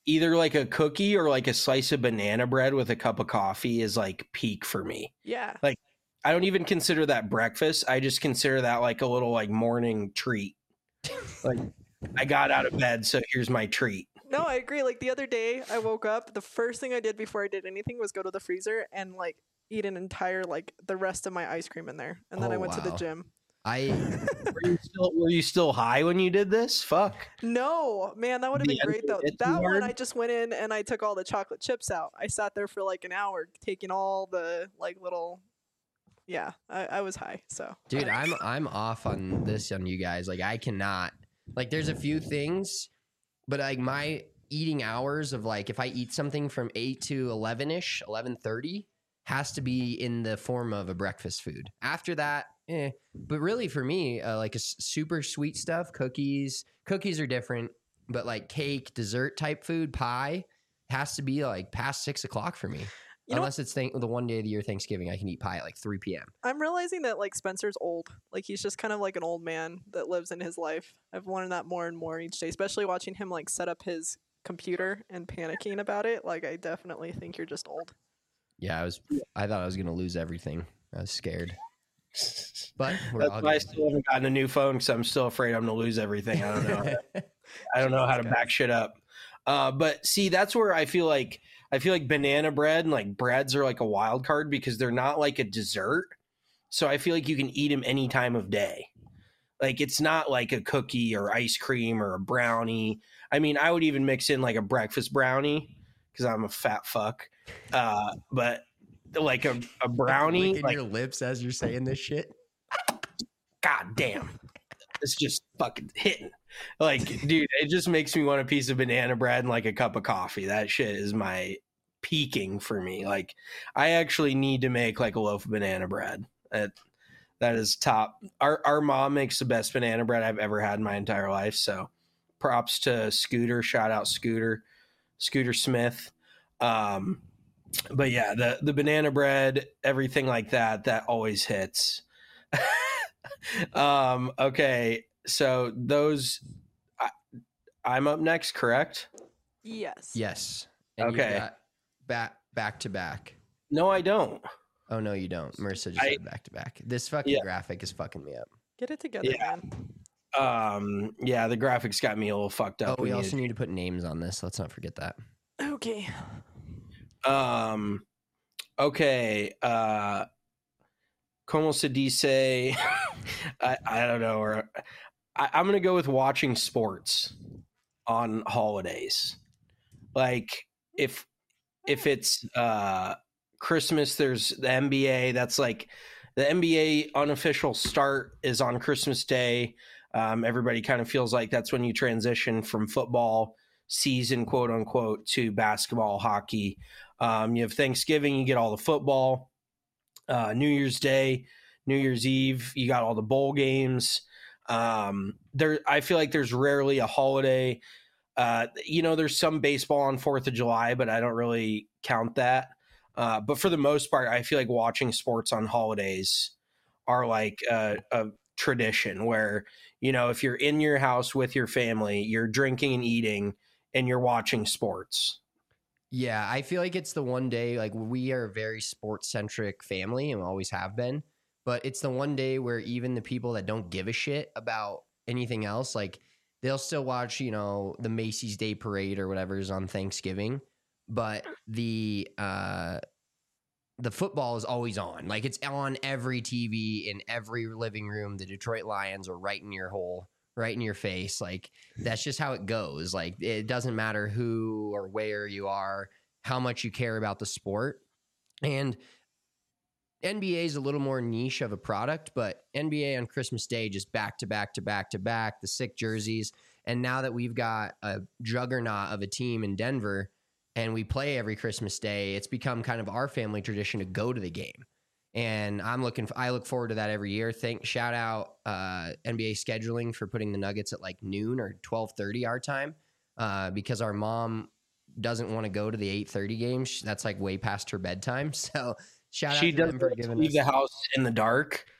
Speaker 5: either like a cookie or like a slice of banana bread with a cup of coffee is like peak for me.
Speaker 6: Yeah.
Speaker 5: Like, I don't even consider that breakfast. I just consider that like a little like morning treat. Like, I got out of bed, so here's my treat.
Speaker 6: No, I agree. Like the other day, I woke up. The first thing I did before I did anything was go to the freezer and like eat an entire like the rest of my ice cream in there, and then
Speaker 4: Oh,
Speaker 6: I went to the
Speaker 4: wow.
Speaker 6: gym.
Speaker 4: I
Speaker 5: Were you still, were you still high when you did this? Fuck.
Speaker 6: No, man, that would have been
Speaker 5: Yeah,
Speaker 6: great though.
Speaker 5: it's
Speaker 6: That one,
Speaker 5: hard.
Speaker 6: I just went in and I took all the chocolate chips out. I sat there for like an hour taking all the like little. Yeah, I, I was high. So,
Speaker 4: dude, I'm I'm off on this on you guys. Like I cannot. Like there's a few things, but like my eating hours of like if I eat something from eight to eleven ish, eleven thirty has to be in the form of a breakfast food. After that, eh. But really for me, uh, like a s- super sweet stuff, cookies. Cookies are different, but like cake, dessert type food, pie has to be like past six o'clock for me.
Speaker 6: You know-
Speaker 4: Unless it's th- the one day of the year Thanksgiving, I can eat pie at like three p.m.
Speaker 6: I'm realizing that like Spencer's old. Like he's just kind of like an old man that lives in his life. I've learned that more and more each day, especially watching him like set up his computer and panicking about it. Like I definitely think you're just old.
Speaker 4: Yeah, I was. I thought I was gonna lose everything. I was scared. But we're all
Speaker 5: That's why I
Speaker 4: good.
Speaker 5: still haven't gotten a new phone because I'm still afraid I'm going to lose everything. I don't know. I don't know how to back shit up. Uh, but see, that's where I feel like I feel like banana bread and like breads are like a wild card because they're not like a dessert. So I feel like you can eat them any time of day. Like it's not like a cookie or ice cream or a brownie. I mean, I would even mix in like a breakfast brownie because I'm a fat fuck. Uh, but like a, a brownie,
Speaker 4: Licking
Speaker 5: like,
Speaker 4: your lips as you're saying this shit.
Speaker 5: God damn. It's just fucking hitting. Like, dude, it just makes me want a piece of banana bread and like a cup of coffee. That shit is my peaking for me. Like, I actually need to make like a loaf of banana bread. That that is top. Our our mom makes the best banana bread I've ever had in my entire life. So props to Scooter. Shout out Scooter. Scooter Smith. Um but yeah, the the banana bread, everything like that, that always hits. um okay, so those I, I'm up next, correct?
Speaker 6: Yes.
Speaker 4: Yes. And you
Speaker 5: Okay.
Speaker 4: got back back to back.
Speaker 5: No, I don't.
Speaker 4: Oh no, you don't. Marissa just
Speaker 5: I-
Speaker 4: said back to back. This fucking
Speaker 5: Yeah.
Speaker 4: graphic is fucking me up.
Speaker 6: Get it together,
Speaker 5: Yeah.
Speaker 6: man.
Speaker 5: Um yeah, the graphics got me a little fucked
Speaker 4: Oh,
Speaker 5: up.
Speaker 4: we
Speaker 5: need
Speaker 4: also
Speaker 5: to-
Speaker 4: need to put names on this. Let's not forget that.
Speaker 6: Okay.
Speaker 5: Um okay, uh Como se dice I, I don't know, or I, I'm gonna go with watching sports on holidays. Like if if it's uh Christmas, there's the N B A. That's like the N B A unofficial start is on Christmas Day. Um, everybody kind of feels like that's when you transition from football season, quote unquote, to basketball, hockey. Um, you have Thanksgiving, you get all the football. Uh, New Year's Day, New Year's Eve, you got all the bowl games. Um, there, I feel like there's rarely a holiday. Uh, you know, there's some baseball on Fourth of July, but I don't really count that. Uh, but for the most part, I feel like watching sports on holidays are like a, a tradition where, you know, if you're in your house with your family, you're drinking and eating and you're watching sports.
Speaker 4: Yeah, I feel like it's the one day, like we are a very sports centric family and always have been, but it's the one day where even the people that don't give a shit about anything else, like they'll still watch, you know, the Macy's Day Parade or whatever is on Thanksgiving, but the, uh, the football is always on. Like it's on every T V in every living room. The Detroit Lions are right in your hole, right in your face. Like that's just how it goes. Like it doesn't matter who or where you are, how much you care about the sport. And N B A is a little more niche of a product, but N B A on Christmas Day, just back to back to back to back, the sick jerseys. And now that we've got a juggernaut of a team in Denver and we play every Christmas Day, it's become kind of our family tradition to go to the game. And I'm looking, I look forward to that every year. Thank, shout out uh, N B A scheduling for putting the Nuggets at like noon or twelve thirty our time uh, because our mom doesn't want to go to the eight thirty games. That's like way past her bedtime. So shout
Speaker 5: She
Speaker 4: out to
Speaker 5: doesn't
Speaker 4: them for
Speaker 5: like to
Speaker 4: giving
Speaker 5: leave
Speaker 4: us.
Speaker 5: the house in the dark.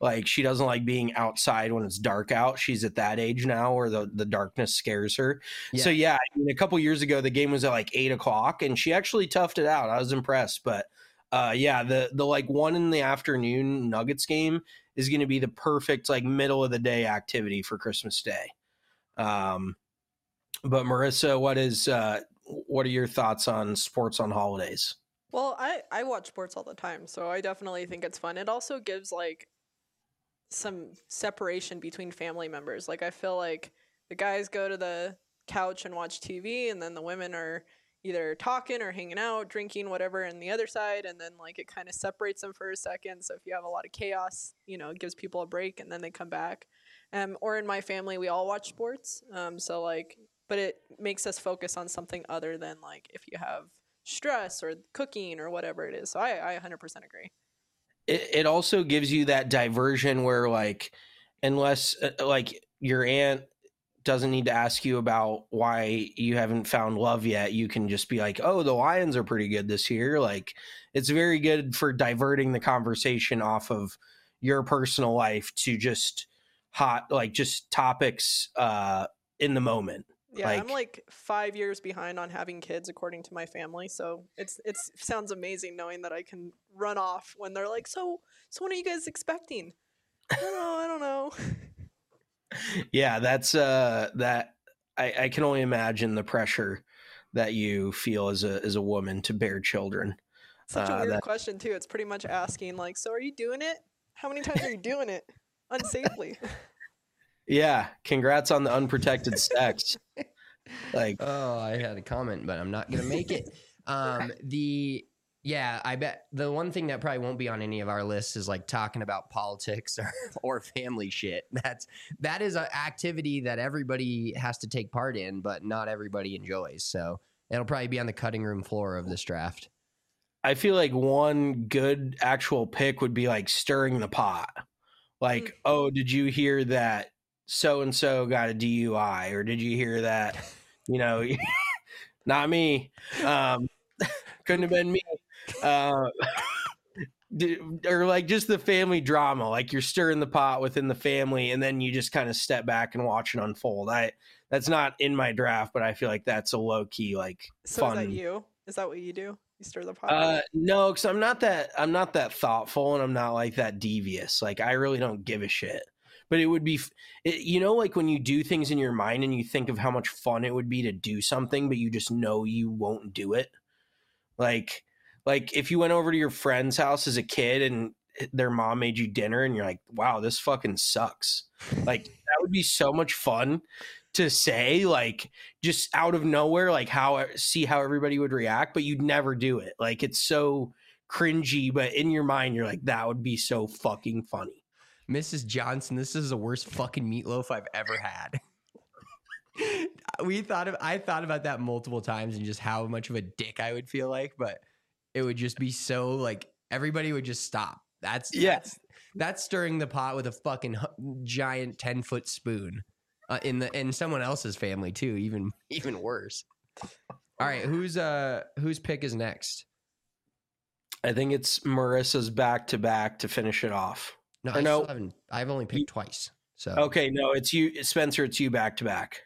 Speaker 5: Like, she doesn't like being outside when it's dark out. She's at that age now where the, the darkness scares her. Yeah. So, yeah, I mean, a couple years ago, the game was at like eight o'clock, and she actually toughed it out. I was impressed. But, uh, yeah, the, the like one in the afternoon Nuggets game is going to be the perfect like middle of the day activity for Christmas Day. Um, but, Marissa, what is uh, what are your thoughts on sports on holidays?
Speaker 6: Well, I, I watch sports all the time, so I definitely think it's fun. It also gives, like, some separation between family members. Like, I feel like the guys go to the couch and watch T V, and then the women are either talking or hanging out, drinking, whatever, in the other side, and then, like, it kind of separates them for a second. So if you have a lot of chaos, you know, it gives people a break, and then they come back. Um, or in my family, we all watch sports. Um, so, like, but it makes us focus on something other than, like, if you have stress or cooking or whatever it is. So I, I one hundred percent agree.
Speaker 5: It, it also gives you that diversion where, like, unless uh, like your aunt doesn't need to ask you about why you haven't found love yet, you can just be like, oh, the Lions are pretty good this year. Like, it's very good for diverting the conversation off of your personal life to just hot, like, just topics uh, in the moment.
Speaker 6: Yeah,
Speaker 5: like,
Speaker 6: I'm like five years behind on having kids, according to my family. So it's it's sounds amazing knowing that I can run off when they're like, "So, so when are you guys expecting?" I don't know. I don't know.
Speaker 5: Yeah, that's uh, that. I, I can only imagine the pressure that you feel as a as a woman to bear children.
Speaker 6: Such a
Speaker 5: uh,
Speaker 6: weird
Speaker 5: that,
Speaker 6: question too. It's pretty much asking like, "So are you doing it? How many times are you doing it unsafely?"
Speaker 5: Yeah, congrats on the unprotected sex. Like,
Speaker 4: oh, I had a comment, but I'm not gonna make it. Um, the yeah, I bet the one thing that probably won't be on any of our lists is like talking about politics or, or family shit. That's that is an activity that everybody has to take part in, but not everybody enjoys. So it'll probably be on the cutting room floor of this draft.
Speaker 5: I feel like one good actual pick would be like stirring the pot. Like, mm. oh, did you hear that so-and-so got a D U I, or did you hear that, you know, not me, um, couldn't have been me, uh, or like just the family drama, like you're stirring the pot within the family, and then you just kind of step back and watch it unfold. I, that's not in my draft, but I feel like that's a low-key, like,
Speaker 6: so
Speaker 5: fun.
Speaker 6: Is that you? Is that what you do? You stir the pot?
Speaker 5: Uh, no, because I'm not that, I'm not that thoughtful, and I'm not like that devious. Like, I really don't give a shit. But it would be, it, you know, like when you do things in your mind and you think of how much fun it would be to do something, but you just know you won't do it. Like, like if you went over to your friend's house as a kid and their mom made you dinner and you're like, wow, this fucking sucks. Like, that would be so much fun to say, like, just out of nowhere, like how, see how everybody would react, but you'd never do it. Like, it's so cringy, but in your mind, you're like, that would be so fucking funny.
Speaker 4: Missus Johnson, this is the worst fucking meatloaf I've ever had. we thought of, I thought about that multiple times and just how much of a dick I would feel like, but it would just be so like everybody would just stop. That's
Speaker 5: yeah.
Speaker 4: That's, that's stirring the pot with a fucking giant ten foot spoon uh, in the in someone else's family too. Even even worse. All right, who's uh whose pick is next?
Speaker 5: I think it's Marissa's back to back to finish it off.
Speaker 4: No, I
Speaker 5: no.
Speaker 4: still haven't. I've only picked twice. So
Speaker 5: okay, no, it's you, Spencer. It's you back to back.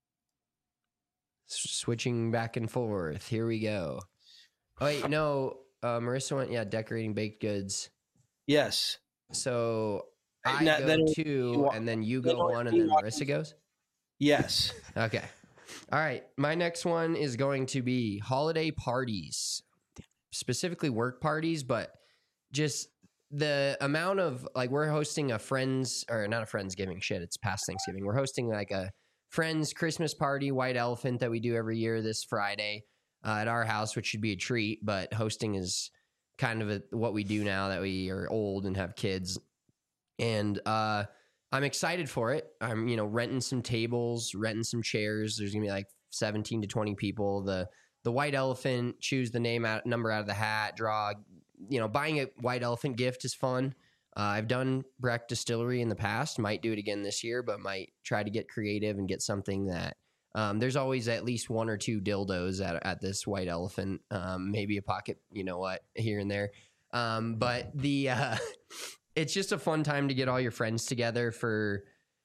Speaker 4: Switching back and forth. Here we go. Oh wait, no. Uh, Marissa went. Yeah, decorating baked goods.
Speaker 5: Yes.
Speaker 4: So I
Speaker 5: now,
Speaker 4: go
Speaker 5: then,
Speaker 4: two, and then you go one, and then Marissa goes.
Speaker 5: Yes.
Speaker 4: Okay. All right. My next one is going to be holiday parties, specifically work parties, but just. The amount of like we're hosting a friends or not a Friendsgiving shit. It's past Thanksgiving. We're hosting like a friends Christmas party, white elephant that we do every year this Friday uh, at our house, which should be a treat. But hosting is kind of a, what we do now that we are old and have kids. And uh, I'm excited for it. I'm, you know, renting some tables, renting some chairs. There's gonna be like seventeen to twenty people. The the white elephant, choose the name out number out of the hat, draw. You know, buying a white elephant gift is fun. Uh, I've done Breck Distillery in the past, might do it again this year, but might try to get creative and get something that um, there's always at least one or two dildos at, at this white elephant, um, maybe a pocket, you know what, here and there. Um, but the uh, it's just a fun time to get all your friends together for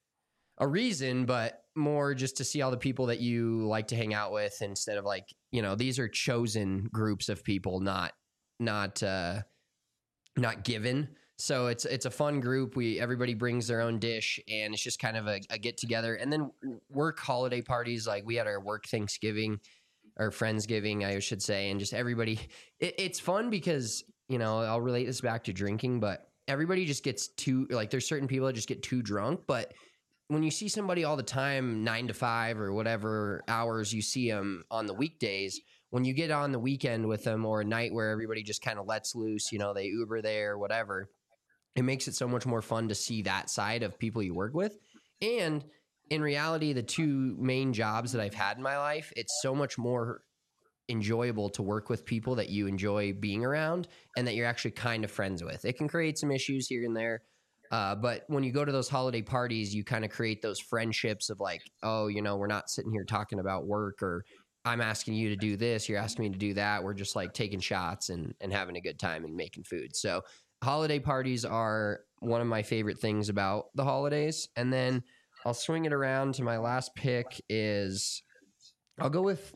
Speaker 4: a reason, but more just to see all the people that you like to hang out with instead of like, you know, these are chosen groups of people, not, not, uh, not given. So it's, it's a fun group. We, everybody brings their own dish and it's just kind of a, a get together. And then work holiday parties. Like we had our work Thanksgiving or Friendsgiving, I should say. And just everybody, it, it's fun because, you know, I'll relate this back to drinking, but everybody just gets too, like there's certain people that just get too drunk, but when you see somebody all the time, nine to five or whatever hours you see them on the weekdays, when you get on the weekend with them or a night where everybody just kind of lets loose, you know, they Uber there, whatever, it makes it so much more fun to see that side of people you work with. And in reality, the two main jobs that I've had in my life, it's so much more enjoyable to work with people that you enjoy being around and that you're actually kind of friends with. It can create some issues here and there. Uh, but when you go to those holiday parties, you kind of create those friendships of like, oh, you know, we're not sitting here talking about work or I'm asking you to do this. You're asking me to do that. We're just like taking shots and, and having a good time and making food. So holiday parties are one of my favorite things about the holidays. And then I'll swing it around to my last pick is I'll go with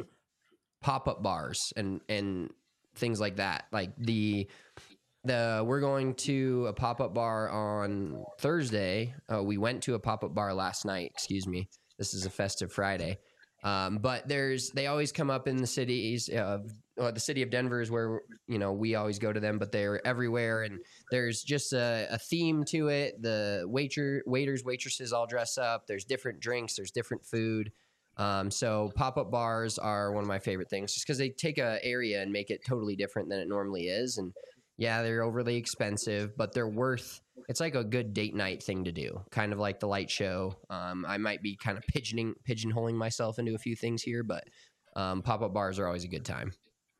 Speaker 4: pop-up bars and, and things like that. Like the... The, we're going to a pop-up bar on Thursday. Uh, we went to a pop-up bar last night. Excuse me. This is a festive Friday. Um, but there's, they always come up in the cities of, well, the city of Denver is where, you know, we always go to them, but they're everywhere. And there's just a, a theme to it. The waiter, waiters, waitresses all dress up. There's different drinks. There's different food. Um, so pop-up bars are one of my favorite things just because they take a area and make it totally different than it normally is. And yeah, they're overly expensive, but they're worth, it's like a good date night thing to do, kind of like the light show. Um, I might be kind of pigeoning, pigeonholing myself into a few things here, but um, pop-up bars are always a good time.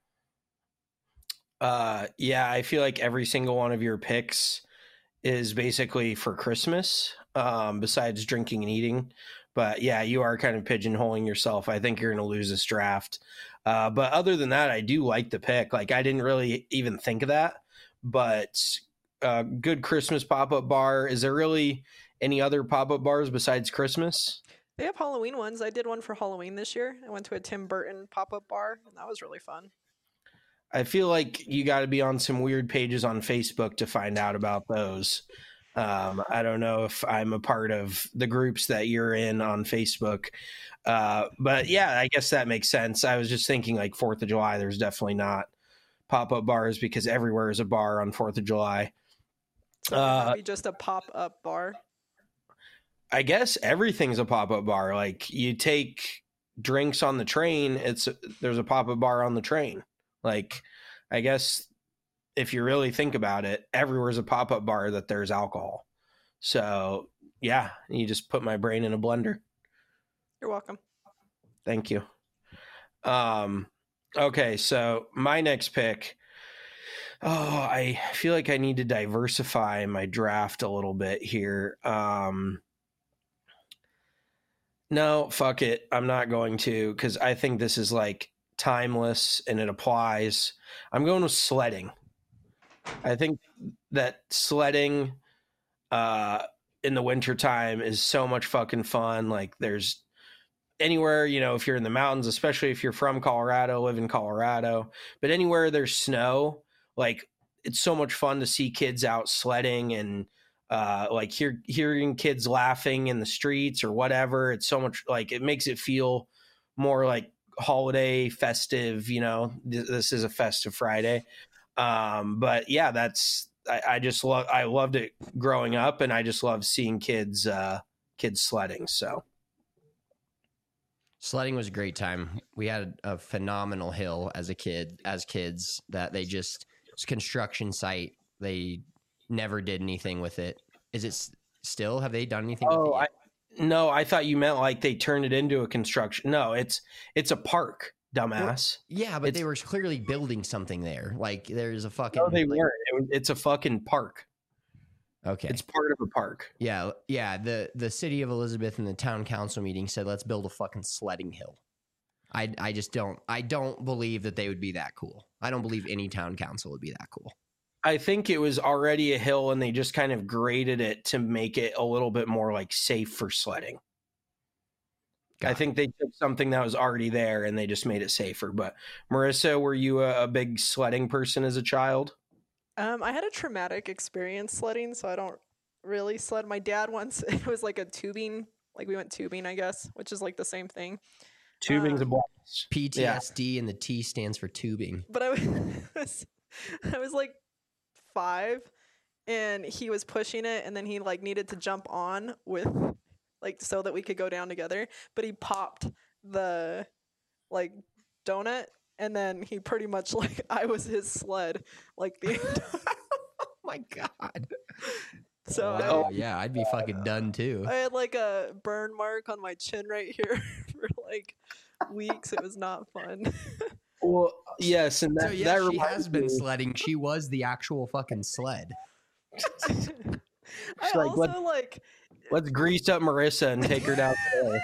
Speaker 5: Uh, yeah, I feel like every single one of your picks is basically for Christmas, um, besides drinking and eating. But yeah, you are kind of pigeonholing yourself. I think you're going to lose this draft. Uh, but other than that, I do like the pick. Like I didn't really even think of that. But uh, good Christmas pop-up bar. Is there really any other pop-up bars besides Christmas?
Speaker 6: They have Halloween ones. I did one for Halloween this year. I went to a Tim Burton pop-up bar, and that was really fun.
Speaker 5: I feel like you got to be on some weird pages on Facebook to find out about those. Um, I don't know if I'm a part of the groups that you're in on Facebook. Uh, but yeah, I guess that makes sense. I was just thinking like fourth of July, there's definitely not pop-up bars because everywhere is a bar on fourth of July. Uh,
Speaker 6: Maybe just a pop-up bar.
Speaker 5: I guess everything's a pop-up bar. Like you take drinks on the train, it's there's a pop-up bar on the train. Like, I guess if you really think about it, everywhere's a pop-up bar that there's alcohol. So yeah, you just put my brain in a blender.
Speaker 6: You're welcome.
Speaker 5: Thank you. Um, okay, so my next pick. Oh, I feel like I need to diversify my draft a little bit here. Um, no, fuck it. I'm not going to because I think this is like timeless and it applies. I'm going with sledding. I think that sledding uh, in the wintertime is so much fucking fun. Like there's anywhere, you know, if you're in the mountains, especially if you're from Colorado, live in Colorado, but anywhere there's snow, like it's so much fun to see kids out sledding and uh, like hear, hearing kids laughing in the streets or whatever. It's so much like it makes it feel more like holiday festive, you know, th- this is a festive Friday. Um, but yeah, that's, I, I just love, I loved it growing up and I just love seeing kids, uh, kids sledding. So.
Speaker 4: Sledding was a great time. We had a phenomenal hill as a kid, as kids that they just, it's a construction site. They never did anything with it. Is it s- still, have they done anything?
Speaker 5: Oh,
Speaker 4: with it
Speaker 5: I, no, I thought you meant like they turned it into a construction. No, it's, it's a park, dumbass.
Speaker 4: Well, yeah, but
Speaker 5: it's,
Speaker 4: they were clearly building something there. Like there's a fucking.
Speaker 5: No, they
Speaker 4: like,
Speaker 5: weren't. It was, it's a fucking park.
Speaker 4: Okay.
Speaker 5: It's part of a park.
Speaker 4: Yeah, yeah. The the city of Elizabeth and the town council meeting said, let's build a fucking sledding hill. I I just don't I don't believe that they would be that cool. I don't believe any town council would be that cool.
Speaker 5: I think it was already a hill and they just kind of graded it to make it a little bit more like safe for sledding. Got I it. think they took something that was already there and they just made it safer. But Marissa, were you a, a big sledding person as a child?
Speaker 6: Um, I had a traumatic experience sledding, so I don't really sled. My dad once, it was like a tubing, like we went tubing, I guess, which is like the same thing.
Speaker 5: Tubing's
Speaker 6: um,
Speaker 5: a blast.
Speaker 4: P T S D yeah. and the T stands for tubing.
Speaker 6: But I was, I was like five and he was pushing it and then he like needed to jump on with like so that we could go down together, but he popped the like donut and then he pretty much like I was his sled like the
Speaker 4: oh my god.
Speaker 6: So
Speaker 4: oh
Speaker 6: I,
Speaker 4: yeah, I'd be fucking done too.
Speaker 6: I had like a burn mark on my chin right here for like weeks. It was not fun.
Speaker 5: Well, yes, and that,
Speaker 4: so yeah,
Speaker 5: that
Speaker 4: she has been
Speaker 5: me.
Speaker 4: sledding. She was the actual fucking sled.
Speaker 6: I
Speaker 5: like,
Speaker 6: also
Speaker 5: let's,
Speaker 6: like
Speaker 5: let's grease up Marissa and take her down there.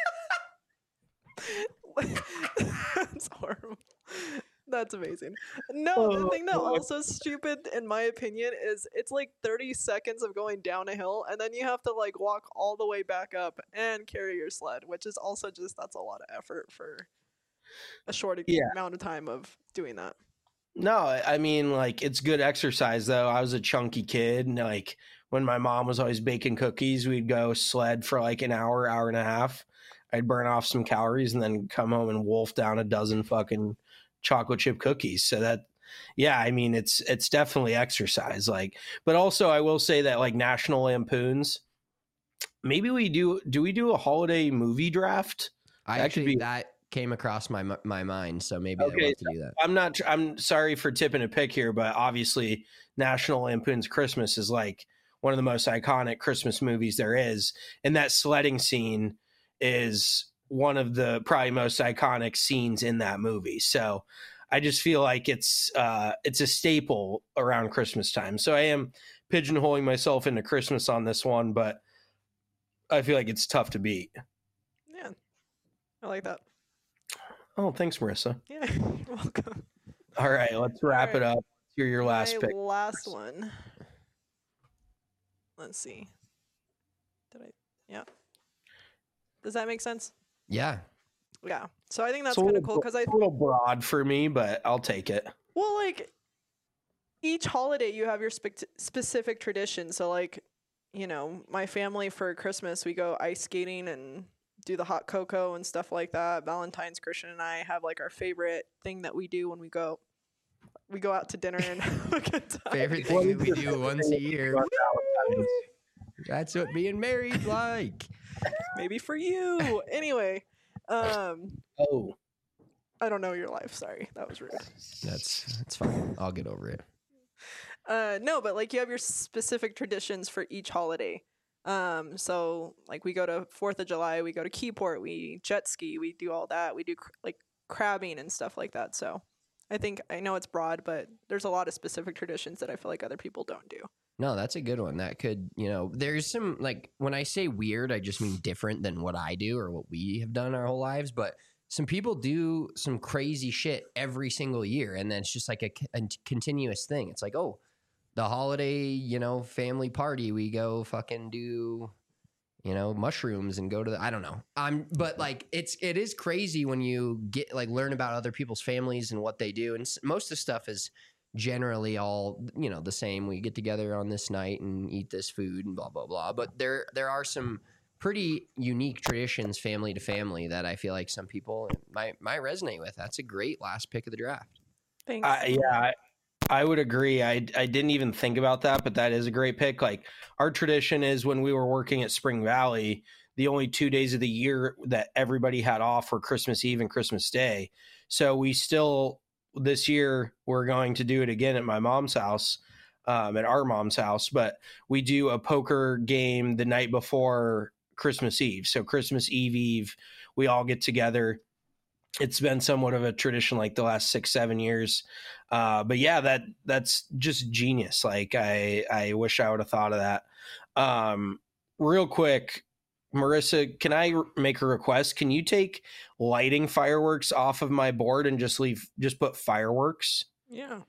Speaker 6: That's horrible. That's amazing. No, the thing that also is stupid, in my opinion, is it's like thirty seconds of going down a hill, and then you have to like walk all the way back up and carry your sled, which is also just that's a lot of effort for a short yeah. amount of time of doing that.
Speaker 5: No, I mean, like, it's good exercise, though. I was a chunky kid, and, like, when my mom was always baking cookies, we'd go sled for, like, an hour, hour and a half. I'd burn off some calories and then come home and wolf down a dozen fucking chocolate chip cookies. So that, yeah, I mean, it's it's definitely exercise. Like, but also, I will say that, like, National Lampoons, maybe we do, do we do a holiday movie draft?
Speaker 4: I
Speaker 5: that
Speaker 4: actually,
Speaker 5: could be,
Speaker 4: that came across my my mind, so maybe
Speaker 5: okay,
Speaker 4: I'd love to do that.
Speaker 5: I'm not, I'm sorry for tipping a pick here, but obviously National Lampoon's Christmas is like one of the most iconic Christmas movies there is. And that sledding scene is one of the probably most iconic scenes in that movie. So I just feel like it's, uh, it's a staple around Christmas time. So I am pigeonholing myself into Christmas on this one, but I feel like it's tough to beat.
Speaker 6: Yeah. I like that.
Speaker 5: Oh, thanks, Marissa.
Speaker 6: Yeah, you're welcome.
Speaker 5: All right, let's wrap right. it up. Here's your last
Speaker 6: My
Speaker 5: pick.
Speaker 6: Last one. Let's see. Did I? Yeah. Does that make sense?
Speaker 4: Yeah.
Speaker 6: Yeah. So I think that's kind of cool because I.
Speaker 5: It's a little broad for me, but I'll take it.
Speaker 6: Well, like each holiday, you have your spe- specific tradition. So, like, you know, my family for Christmas, we go ice skating and do the hot cocoa and stuff like that. Valentine's, Christian and I have like our favorite thing that we do when we go we go out to dinner and have a good time.
Speaker 4: Favorite thing that we do once a year. That's what being married like.
Speaker 6: Maybe for you. Anyway, um
Speaker 5: oh
Speaker 6: I don't know your life, sorry. That was rude.
Speaker 4: That's that's fine. I'll get over it.
Speaker 6: Uh no, but like you have your specific traditions for each holiday. Um, so like we go to fourth of July, we go to Keyport, we jet ski, we do all that. We do cr- like crabbing and stuff like that. So I think, I know it's broad, but there's a lot of specific traditions that I feel like other people don't do.
Speaker 4: No, that's a good one. That could, you know, there's some, like, when I say weird, I just mean different than what I do or what we have done our whole lives. But some people do some crazy shit every single year. And then it's just like a, a continuous thing. It's like, oh, the holiday, you know, family party, we go fucking do, you know, mushrooms and go to the, I don't know. I'm, but like, it's, it is crazy when you get, like, learn about other people's families and what they do. And most of the stuff is generally all, you know, the same. We get together on this night and eat this food and blah, blah, blah. But there, there are some pretty unique traditions, family to family, that I feel like some people might, might resonate with. That's a great last pick of the draft.
Speaker 6: Thanks.
Speaker 5: Uh, yeah. I- I would agree. I, I didn't even think about that, but that is a great pick. Like, our tradition is when we were working at Spring Valley, the only two days of the year that everybody had off were Christmas Eve and Christmas Day. So we still, this year, we're going to do it again at my mom's house, um, at our mom's house. But we do a poker game the night before Christmas Eve. So Christmas Eve Eve, we all get together. It's been somewhat of a tradition like the last six, seven years. Uh, but yeah, that that's just genius. Like, I, I wish I would have thought of that. Um, real quick, Marissa, can I make a request? Can you take lighting fireworks off of my board and just leave, just put fireworks?
Speaker 6: Yeah.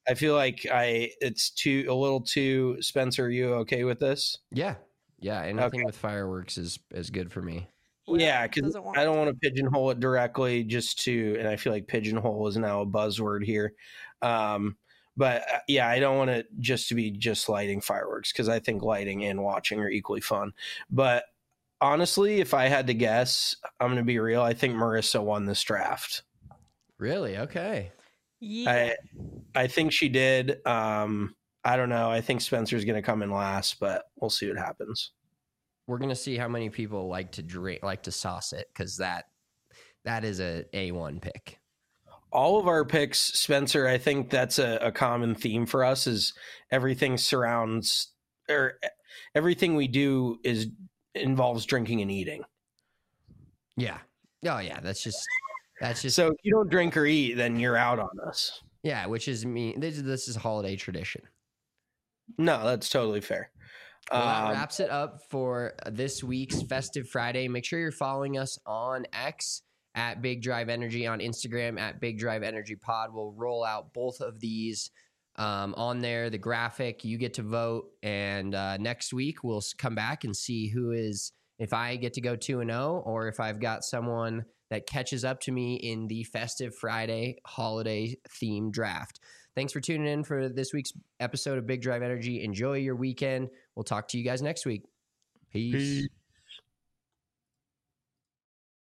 Speaker 5: I feel like I it's too a little too. Spencer, are you okay with this?
Speaker 4: Yeah. Yeah. Anything
Speaker 5: Okay.
Speaker 4: with fireworks is, is good for me.
Speaker 6: Well,
Speaker 5: Yeah, because
Speaker 6: doesn't want
Speaker 5: I don't want to pigeonhole it directly just to, and I feel like pigeonhole is now a buzzword here. Um, but uh, yeah, I don't want it just to be just lighting fireworks because I think lighting and watching are equally fun. But honestly, if I had to guess, I'm going to be real. I think Marissa won this draft.
Speaker 4: Really? Okay.
Speaker 6: Yeah.
Speaker 5: I I think she did. Um, I don't know. I think Spencer's going to come in last, but we'll see what happens.
Speaker 4: We're going to see how many people like to drink, like to sauce it. Cause that, that is a A one pick.
Speaker 5: All of our picks, Spencer, I think that's a, a common theme for us is everything surrounds or everything we do is involves drinking and eating.
Speaker 4: Yeah. Oh yeah. That's just, that's just,
Speaker 5: So if you don't drink or eat, then you're out on us.
Speaker 4: yeah. Which is me. This, this is a holiday tradition.
Speaker 5: No, that's totally fair.
Speaker 4: Well, that
Speaker 5: Um,
Speaker 4: wraps it up for this week's Festive Friday. Make sure you're following us on X at Big Drive Energy, on Instagram at Big Drive Energy Pod. We'll roll out both of these um, on there, the graphic. You get to vote. And uh, next week, we'll s- come back and see who is, if I get to go two and oh, or if I've got someone that catches up to me in the Festive Friday holiday theme draft. Thanks for tuning in for this week's episode of Big Drive Energy. Enjoy your weekend. We'll talk to you guys next week. Peace. Peace.